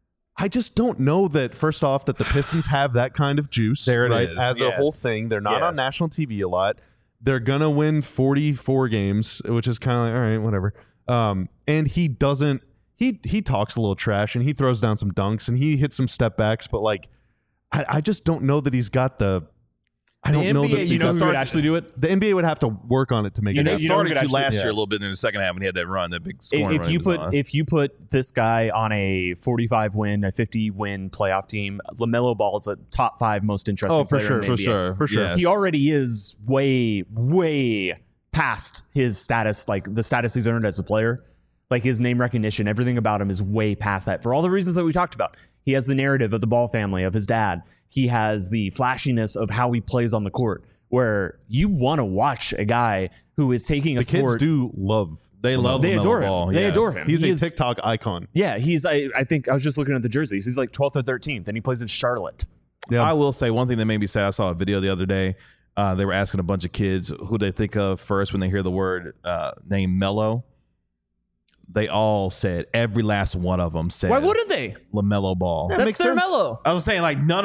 I just don't know that, first off, that the Pistons have that kind of juice. There it is. As a whole thing. They're not on national TV a lot. They're going to win 44 games, which is kind of like, all right, whatever. And he doesn't, he talks a little trash, and he throws down some dunks, and he hits some step backs, but like, I just don't know that he's got the, I don't know that who would actually do it. The NBA would have to work on it to make it happen. He started to last year a little bit in the second half, and he had that run, that big scoring run. If you put this guy on a 45-win, a 50-win playoff team, LaMelo Ball is a top 5 most interesting player in the NBA. For sure. Yes. He already is way past his status, like the status he's earned as a player. Like, his name recognition, everything about him is way past that for all the reasons that we talked about. He has the narrative of the Ball family, of his dad. He has the flashiness of how he plays on the court, where you want to watch a guy who is taking a sport. The kids do love. They adore him. They adore him. He's a TikTok icon. Yeah, I think I was just looking at the jerseys. He's like 12th or 13th, and he plays in Charlotte. Yeah. I will say one thing that made me sad. I saw a video the other day. They were asking a bunch of kids who they think of first when they hear the word name Melo. They all said, every last one of them said, why wouldn't they? LaMelo Ball. Yeah, that's their Melo. I was saying, like, none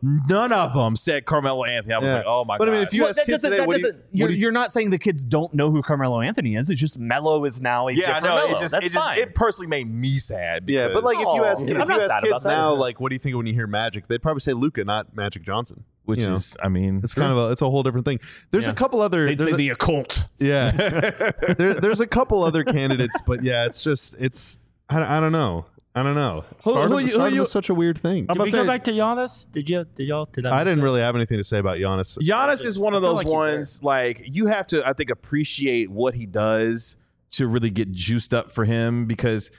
of them said Carmelo Anthony. I was like, oh my god. But I mean, if you ask kids today, you're not saying the kids don't know who Carmelo Anthony is. It's just Melo is now a different Melo. It personally made me sad. Yeah, but like, if you ask kids now, like, what do you think when you hear Magic? They'd probably say Luka, not Magic Johnson. Which is, I mean, it's kind of it's a whole different thing. There's a couple other. They'd say the occult. Yeah, there's a couple other candidates, but yeah, it's I don't know. Stardom is such a weird thing. Did we go back to Giannis? Did y'all? I didn't really have anything to say about Giannis. Giannis is one of those ones, like, you have to, I think, appreciate what he does to really get juiced up for him, because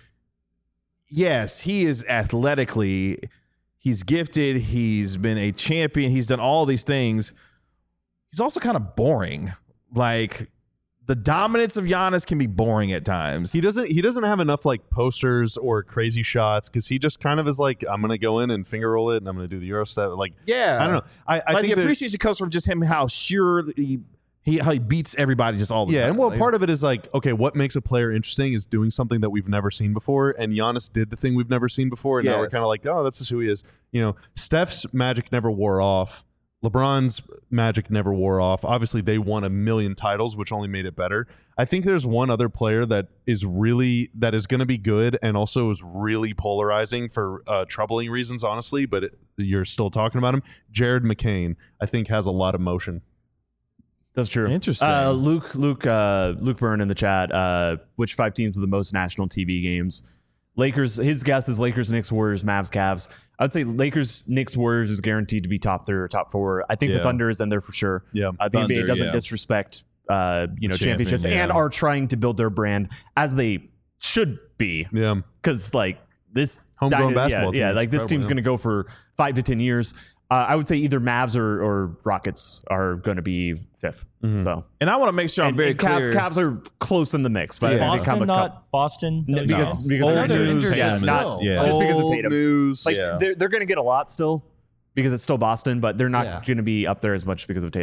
yes, he is athletically. He's gifted. He's been a champion. He's done all these things. He's also kind of boring. Like, the dominance of Giannis can be boring at times. He doesn't have enough like posters or crazy shots, because he just kind of is like, I'm gonna go in and finger roll it, and I'm gonna do the Euro step. Like, yeah, I don't know. I think the appreciation comes from just him, how surely how he beats everybody just all the time. Yeah, and well, part of it is like, okay, what makes a player interesting is doing something that we've never seen before, and Giannis did the thing we've never seen before, and now we're kind of like, oh, that's just who he is. You know, Steph's magic never wore off. LeBron's magic never wore off. Obviously, they won 1 million titles, which only made it better. I think there's one other player that is going to be good and also is really polarizing for troubling reasons, honestly, but you're still talking about him. Jared McCain, I think, has a lot of motion. That's true. Interesting. Luke Byrne in the chat. Which 5 teams with the most national TV games? Lakers. His guess is Lakers, Knicks, Warriors, Mavs, Cavs. I would say Lakers, Knicks, Warriors is guaranteed to be top 3 or top 4. I think the Thunder is in there for sure. Yeah, the NBA doesn't disrespect championships and are trying to build their brand as they should be. Yeah, because like this homegrown basketball team. Yeah, like this team's going to go for 5 to 10 years. I would say either Mavs or Rockets are going to be 5th. Mm-hmm. So, and I want to make sure I'm very clear. Cavs are close in the mix, but Boston not Boston because old news. Just because of Tatum. News. Like they're going to get a lot still because it's still Boston, but they're not going to be up there as much because of Tatum.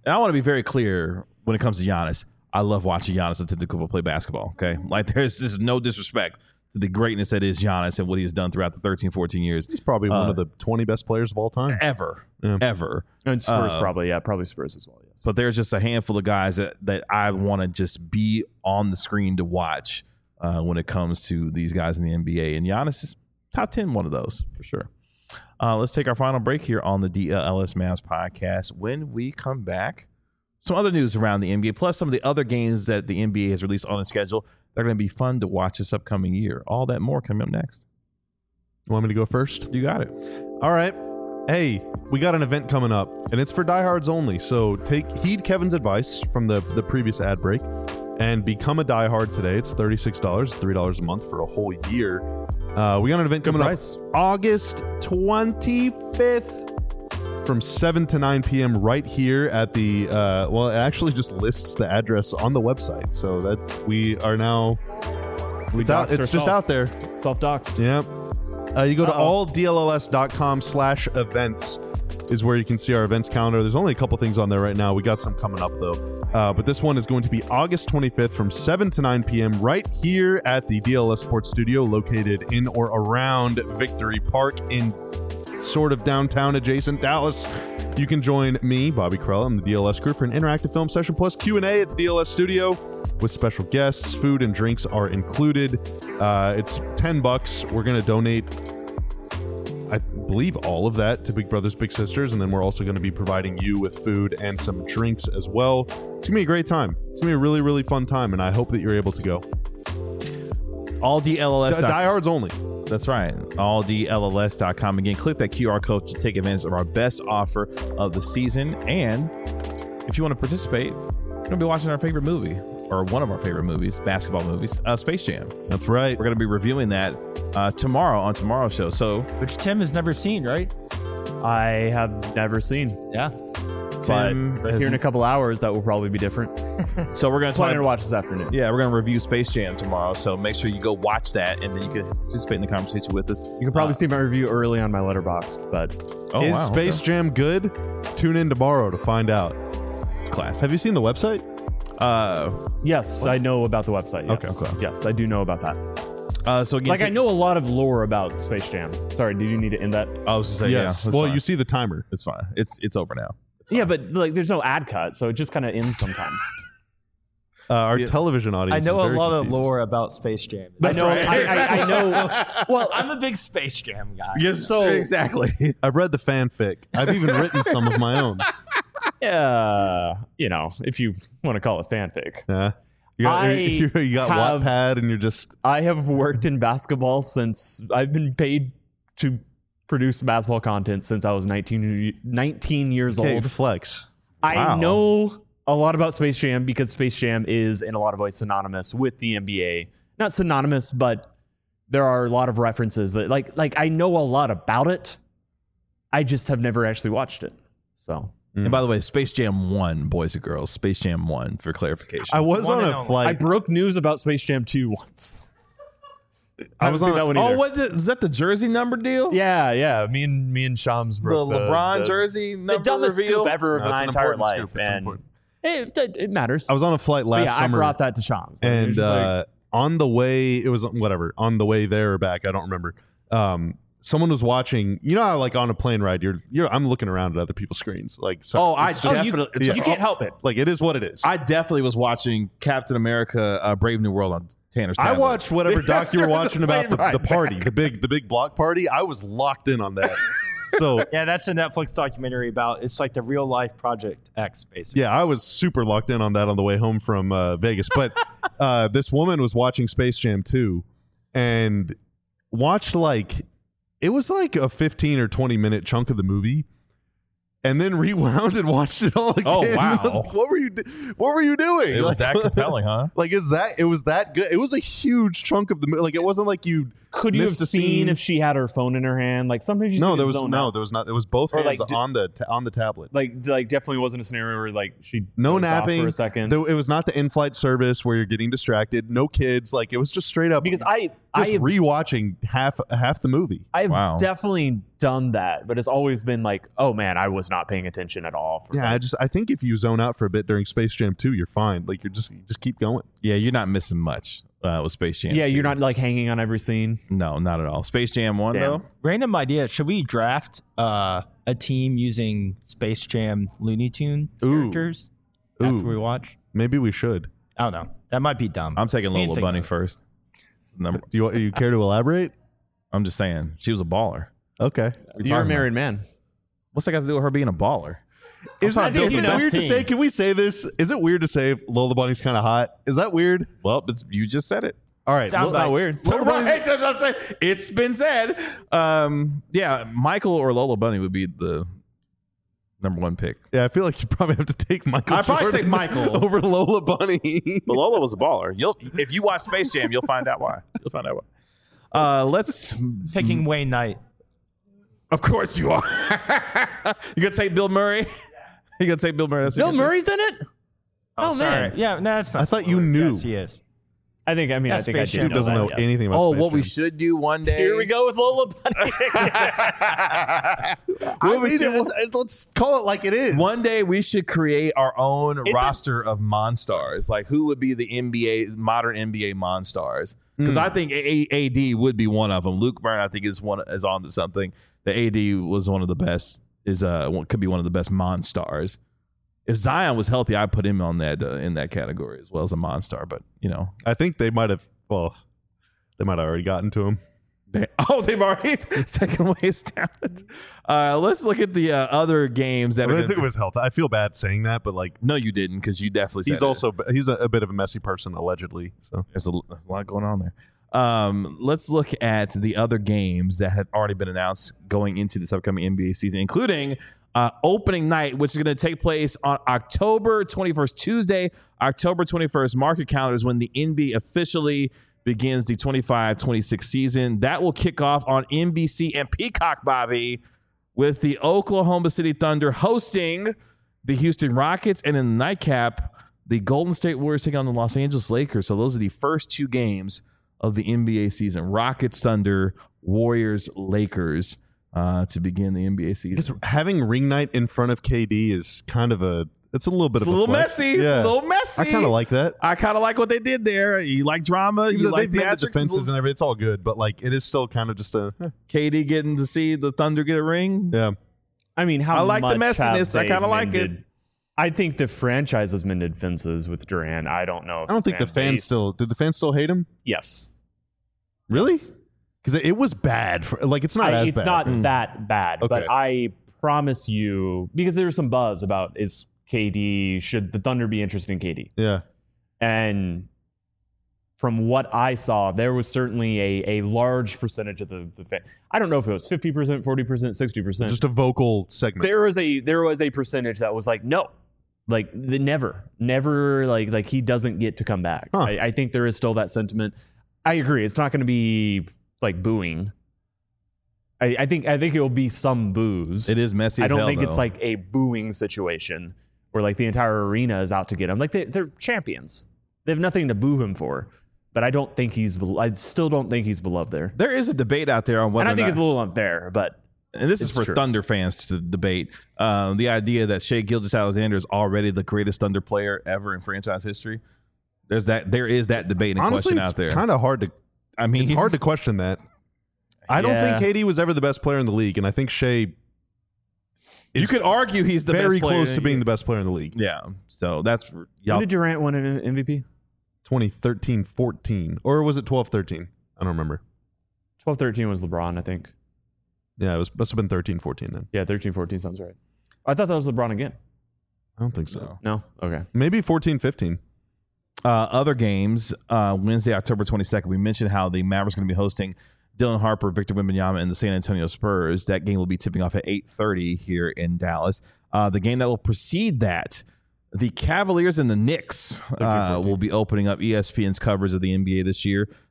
And I want to be very clear when it comes to Giannis. I love watching Giannis Antetokounmpo play basketball. Okay, like there's just no disrespect to the greatness that is Giannis and what he has done throughout the 13, 14 years. He's probably one of the 20 best players of all time ever. And Spurs probably Spurs as well. Yes, but there's just a handful of guys that I want to just be on the screen to watch when it comes to these guys in the NBA. And Giannis is top 10, one of those for sure. Let's take our final break here on the DLS Mavs podcast. When we come back, some other news around the NBA, plus some of the other games that the NBA has released on the schedule. They're going to be fun to watch this upcoming year. All that more coming up next. You want me to go first? You got it. All right. Hey, we got an event coming up, and it's for diehards only. So heed Kevin's advice from the previous ad break and become a diehard today. It's $36, $3 a month for a whole year. We got an event coming up August 25th. From 7 to 9 p.m. right here at the, it actually just lists the address on the website. So that we are now, it's just out there. Self-doxed. Yeah. You go to alldlls.com/events is where you can see our events calendar. There's only a couple things on there right now. We got some coming up, though. But this one is going to be August 25th from 7 to 9 p.m. right here at the DLS Sports Studio located in or around Victory Park in sort of downtown adjacent Dallas. You can join me, Bobby Krell, and the DLS crew for an interactive film session plus Q&A at the DLS studio with special guests. Food and drinks are included. It's $10. We're going to donate, I believe, all of that to Big Brothers Big Sisters, and then we're also going to be providing you with food and some drinks as well. It's going to be a great time. It's going to be a really, really fun time, and I hope that you're able to go. AllDLS. Diehards only. That's right. AllDLS.com. Again, click that QR code to take advantage of our best offer of the season. And if you want to participate, we're going to be watching our favorite movie, or one of our favorite movies, basketball movies, Space Jam. That's right. We're going to be reviewing that tomorrow on tomorrow's show. So, which Tim has never seen, right? I have never seen. Yeah. But here in a couple hours, that will probably be different. So we're going to planning to watch this afternoon. Yeah, we're going to review Space Jam tomorrow. So make sure you go watch that, and then you can participate in the conversation with us. You can probably see my review early on my Letterboxd, but is Space Jam good? Tune in tomorrow to find out. It's class. Have you seen the website? Yes, I know about the website. Yes. Okay. Yes, I do know about that. So again, I know a lot of lore about Space Jam. Sorry, did you need to end that? I was just saying, yes. Yeah. Well, you see the timer. It's fine. It's over now. Yeah, but there's no ad cut, so it just kind of ends sometimes. Our television audience. I know is very a lot confused. of lore about Space Jam. That's right. I know. Well, I'm a big Space Jam guy. Yes, so exactly. I've read the fanfic. I've even written some of my own. Yeah, if you want to call it fanfic. Yeah. You got Wattpad, and you're just. I have worked in basketball since I've been paid to produce basketball content since I was 19 years old. Flex. I know a lot about Space Jam because Space Jam is in a lot of ways synonymous with the NBA. Not synonymous, but there are a lot of references that like I know a lot about it. I just have never actually watched it. So. And by the way, Space Jam 1, boys and girls. Space Jam 1, for clarification. I was on a flight. I broke news about Space Jam 2 once. I was on that one either. Is that the jersey number deal? Yeah. Me and Shams broke the LeBron jersey number the dumbest reveal scoop ever of my entire life. And it matters. I was on a flight last summer. I brought that to Shams. And on the way, it was whatever. On the way there or back, I don't remember. Someone was watching. You know how on a plane ride, I'm looking around at other people's screens. You can't help it. Like it is what it is. I definitely was watching Captain America: Brave New World on Tanner's tablet. I watched whatever doc you were watching about the party, the big block party. I was locked in on that. So yeah, that's a Netflix documentary about. It's like the real life Project X, basically. Yeah, I was super locked in on that on the way home from Vegas. But this woman was watching Space Jam 2 and watched it was like a 15 or 20 minute chunk of the movie, and then rewound and watched it all again. Oh wow! What were you doing? It was that compelling, huh? It was that good. It was a huge chunk of the movie. It wasn't like you Could you have seen if she had her phone in her hand? Like sometimes you there was not. It was both hands on the tablet. Like definitely wasn't a scenario where like she no napping for a second. It was not the in-flight service where you're getting distracted. No kids. Like it was just straight up. Because I rewatching half the movie. I've definitely done that, but it's always been like, oh man, I was not paying attention at all. I think if you zone out for a bit during Space Jam 2, you're fine. Like you just keep going. Yeah, you're not missing much. With Space Jam 2. You're not like hanging on every scene. No, not at all. Space Jam 1 though. Random idea. Should we draft a team using Space Jam Looney Tune characters after we watch? Maybe we should. I don't know. That might be dumb. I'm taking Lola Bunny first. Do you care to elaborate? I'm just saying she was a baller. Okay. You're a married man. What's that got to do with her being a baller? Is it weird to say? Can we say this? Is it weird to say Lola Bunny's kind of hot? Is that weird? Well, you just said it. All right, sounds not weird. It's been said. Michael or Lola Bunny would be the number one pick. Yeah, I feel like you probably have to take Michael. I'd probably take Michael over Lola Bunny. But Lola was a baller. If you watch Space Jam, you'll find out why. Let's picking Wayne Knight. Of course you are. You gonna take Bill Murray? You gonna take Bill Murray? Bill Murray's in it? Oh man. Yeah, no, that's not. I thought you knew. Yes, he is. I think I do. Dude doesn't know anything about Space what Jam. we should do one day. Here we go with Lola Bunny. Let's call it like it is. One day we should create our own roster of Monstars. Like who would be the modern NBA Monstars? Because I think AD would be one of them. Luke Byrne, I think, is on to something. The AD was one of the best. Could be one of the best Monstars. If Zion was healthy, I'd put him on that in that category as well as a Monstar. But I think they might have. Well, they might have already gotten to him. They've already taken away his talent. Let's look at the other games that they took away his health. I feel bad saying that, but like, no, you didn't, because you definitely. He's a bit of a messy person, allegedly. So there's a lot going on there. Let's look at the other games that have already been announced going into this upcoming NBA season, including opening night, which is going to take place on October 21st, Tuesday, October 21st. Mark your calendars when the NBA officially begins the 25-26 season. That will kick off on NBC and Peacock, Bobby, with the Oklahoma City Thunder hosting the Houston Rockets, and in the nightcap, the Golden State Warriors taking on the Los Angeles Lakers. So those are the first two games of the NBA season. Rockets, Thunder, Warriors, Lakers. To begin the NBA season. Just having ring night in front of KD is kind of it's a little bit of a messy. Yeah. It's a little messy. I kind of like that. I kind of like what they did there. You like drama. You like the defenses and everything. It's all good, but like it is still kind of just KD getting to see the Thunder get a ring. Yeah. I mean, I like the messiness. I kind of like it. I think the franchise has mended fences with Durant. I don't know. I don't think the fans still. Did the fans still hate him? Yes. Really? Yes. Because it was bad. It's not as bad. It's not that bad. Okay. But I promise you, because there was some buzz about should the Thunder be interested in KD? Yeah. And from what I saw, there was certainly a large percentage of the fan. I don't know if it was 50%, 40%, 60%. Just a vocal segment. There was a percentage that was like, no. Like never, like he doesn't get to come back. Huh. I think there is still that sentiment. I agree. It's not going to be like booing. I think it will be some boos. It is messy. I don't think though. It's like a booing situation where like the entire arena is out to get him. Like they're champions. They have nothing to boo him for. But I still don't think he's beloved there. There is a debate out there on whether. And I think it's a little unfair, but. And this is for Thunder fans to debate. The idea that Shai Gilgeous-Alexander is already the greatest Thunder player ever in franchise history. There is that debate and question out there. Kind of hard to. I mean, it's hard to question that. I don't think KD was ever the best player in the league, and I think Shai. You could argue he's the very best player close to being the best player in the league. Yeah, so that's for y'all. When did Durant win an MVP? 2013-14, or was it 12-13? I don't remember. 12-13 was LeBron, I think. Yeah, it must have been 13-14 then. Yeah, 13-14 sounds right. I thought that was LeBron again. I don't think so. No? Okay. Maybe 14-15. Other games, Wednesday, October 22nd, we mentioned how the Mavericks are going to be hosting Dylan Harper, Victor Wembanyama, and the San Antonio Spurs. That game will be tipping off at 8:30 here in Dallas. The game that will precede that, the Cavaliers and the Knicks will be opening up ESPN's coverage of the NBA this year.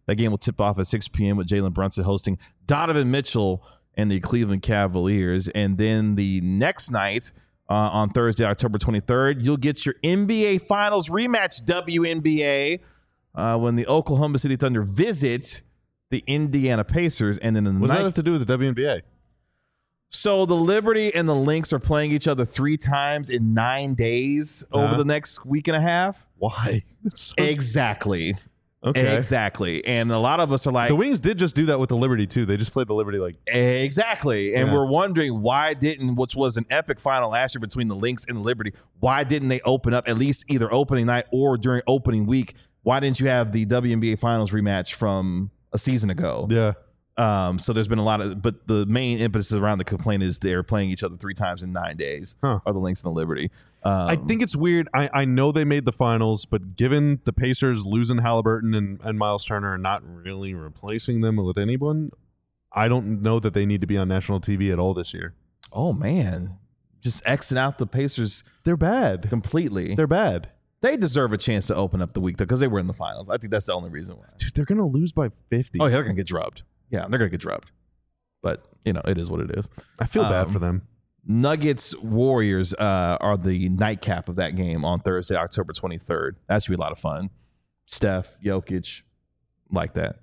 That game will tip off at 6 p.m. with Jalen Brunson hosting Donovan Mitchell and the Cleveland Cavaliers. And then the next night, on Thursday, October 23rd, you'll get your NBA Finals rematch, WNBA, when the Oklahoma City Thunder visit the Indiana Pacers. And then what does that have to do with the WNBA? So the Liberty and the Lynx are playing each other 3 times in 9 days over the next week and a half. Why? Exactly. Okay. Exactly. And a lot of us are like, the Wings did just do that with the Liberty too. They just played the Liberty like exactly. And we're wondering why didn't, which was an epic final last year between the Lynx and the Liberty, why didn't they open up at least either opening night or during opening week? Why didn't you have the WNBA Finals rematch from a season ago? Yeah. So there's been a lot of, but the main impetus around the complaint is they're playing each other 3 times in 9 days. Are the Lynx and the Liberty? I think it's weird. I know they made the finals, but given the Pacers losing Halliburton and Miles Turner and not really replacing them with anyone, I don't know that they need to be on national TV at all this year. Oh man, just Xing out the Pacers. They're bad completely. They're bad. They deserve a chance to open up the week though because they were in the finals. I think that's the only reason why. Dude, they're gonna lose by 50. Oh yeah, they're gonna get drubbed. Yeah, they're going to get drubbed. But, it is what it is. I feel bad for them. Nuggets Warriors are the nightcap of that game on Thursday, October 23rd. That should be a lot of fun. Steph, Jokic, like that.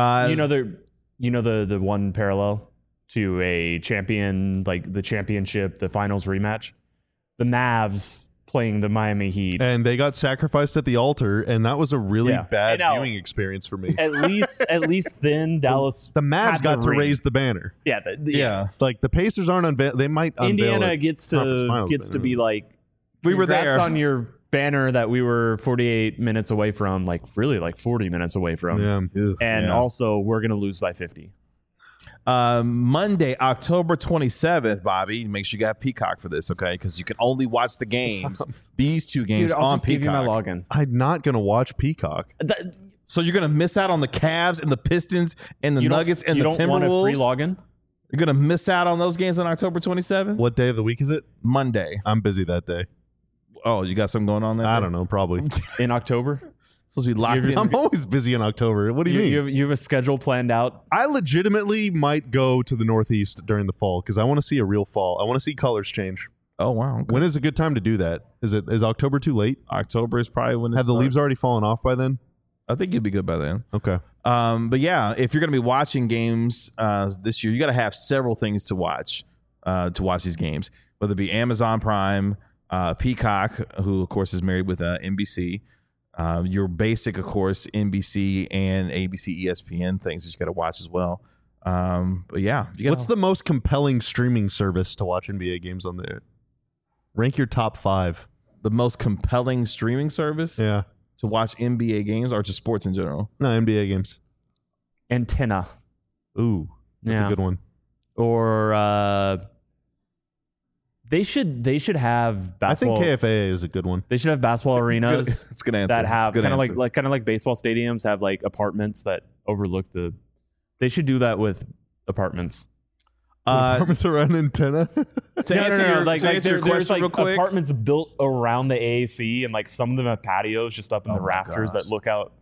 The one parallel to a champion, like the championship, the finals rematch? The Mavs playing the Miami Heat. And they got sacrificed at the altar, and that was a really bad viewing experience for me. At least then Dallas the Mavs got to raise the banner. Yeah. Like the Pacers aren't they might Indiana gets to be like, we were there on your banner that we were 48 minutes away from, like really like 40 minutes away from. Also we're going to lose by 50. Monday, October 27th, Bobby, make sure you got Peacock for this, okay? Because you can only watch the games, these 2 games Dude, I'll on just Peacock. Give you my login. I'm not going to watch Peacock. So you're going to miss out on the Cavs and the Pistons and the Nuggets and the Timberwolves? You don't want a free login? You're going to miss out on those games on October 27th? What day of the week is it? Monday. I'm busy that day. Oh, you got something going on there? I don't know, probably. In October? Supposed to be locked in. I'm always busy in October. What do you mean? You have a schedule planned out? I legitimately might go to the Northeast during the fall because I want to see a real fall. I want to see colors change. Oh, wow. Okay. When is a good time to do that? Is October too late? October is probably when Have the leaves already fallen off by then? I think you'd be good by then. Okay. But yeah, if you're going to be watching games this year, you got to have several things to watch these games, whether it be Amazon Prime, Peacock, who, of course, is married with NBC. Your basic, of course, NBC and ABC, ESPN things that you got to watch as well. But yeah, what's the most compelling streaming service to watch NBA games on there? Rank your top 5. The most compelling streaming service? Yeah. To watch NBA games or just sports in general? No, NBA games. Antenna. Ooh, that's a good one. Or They should have basketball. I think KFAA is a good one. They should have basketball arenas. It's a good answer. That have kind of like baseball stadiums have like apartments that overlook the. They should do that with apartments. Apartments around antenna. There's like apartments built around the AAC, and like some of them have patios just up in the rafters that look out.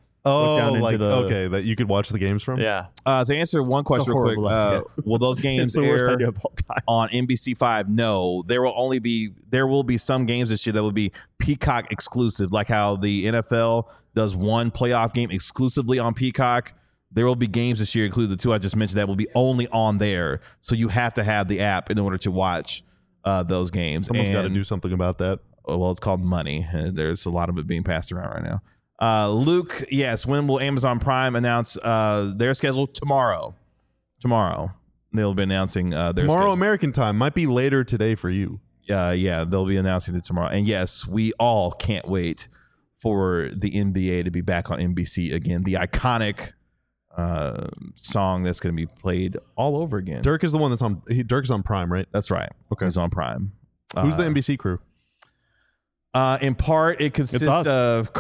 That you could watch the games from. Yeah. To answer one question real quick, will those games air on NBC5? No, there will be some games this year that will be Peacock exclusive, like how the NFL does one playoff game exclusively on Peacock. There will be games this year, including the 2 I just mentioned, that will be only on there. So you have to have the app in order to watch those games. Someone's got to do something about that. Well, it's called money. There's a lot of it being passed around right now. Luke, yes. When will Amazon Prime announce their schedule? Tomorrow. They'll be announcing their schedule. American time. Might be later today for you. Yeah, they'll be announcing it tomorrow. And yes, we all can't wait for the NBA to be back on NBC again. The iconic song that's going to be played all over again. Dirk is the one that's on. Dirk is on Prime, right? That's right. Okay, he's on Prime. Who's the NBC crew? In part, it consists of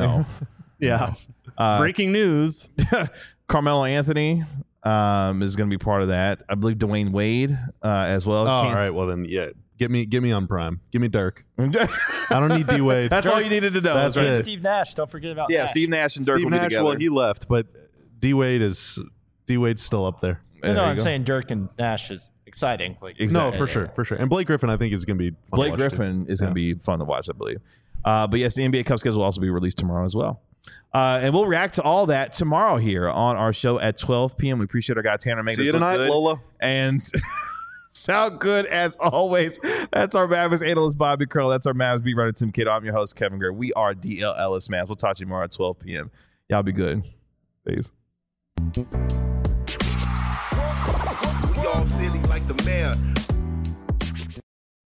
breaking news. Carmelo Anthony is going to be part of that. I believe Dwayne Wade as well. All right. Well then, yeah. Get me on Prime. Give me Dirk. I don't need D Wade. That's Dirk, all you needed to know. That's right. it. Steve Nash. Don't forget about Steve Nash and Dirk. Steve Nash. Well, he left, but D-Wade's still up there. No, I'm saying Dirk and Nash is exciting. Like, exactly. No, for sure. And Blake Griffin, I think, is going to be fun Blake Griffin is going to be fun to watch, I believe. But yes, the NBA Cup schedule will also be released tomorrow as well. And we'll react to all that tomorrow here on our show at 12 p.m. We appreciate our guy Tanner making us look good. See you tonight, Lola. And sound good as always. That's our Mavs analyst, Bobby Curl. That's our Mavs beat writer, Tim Kidd. I'm your host, Kevin Gray. We are DLLS Mavs. We'll talk to you tomorrow at 12 p.m. Y'all be good. Peace. We all silly like the mayor.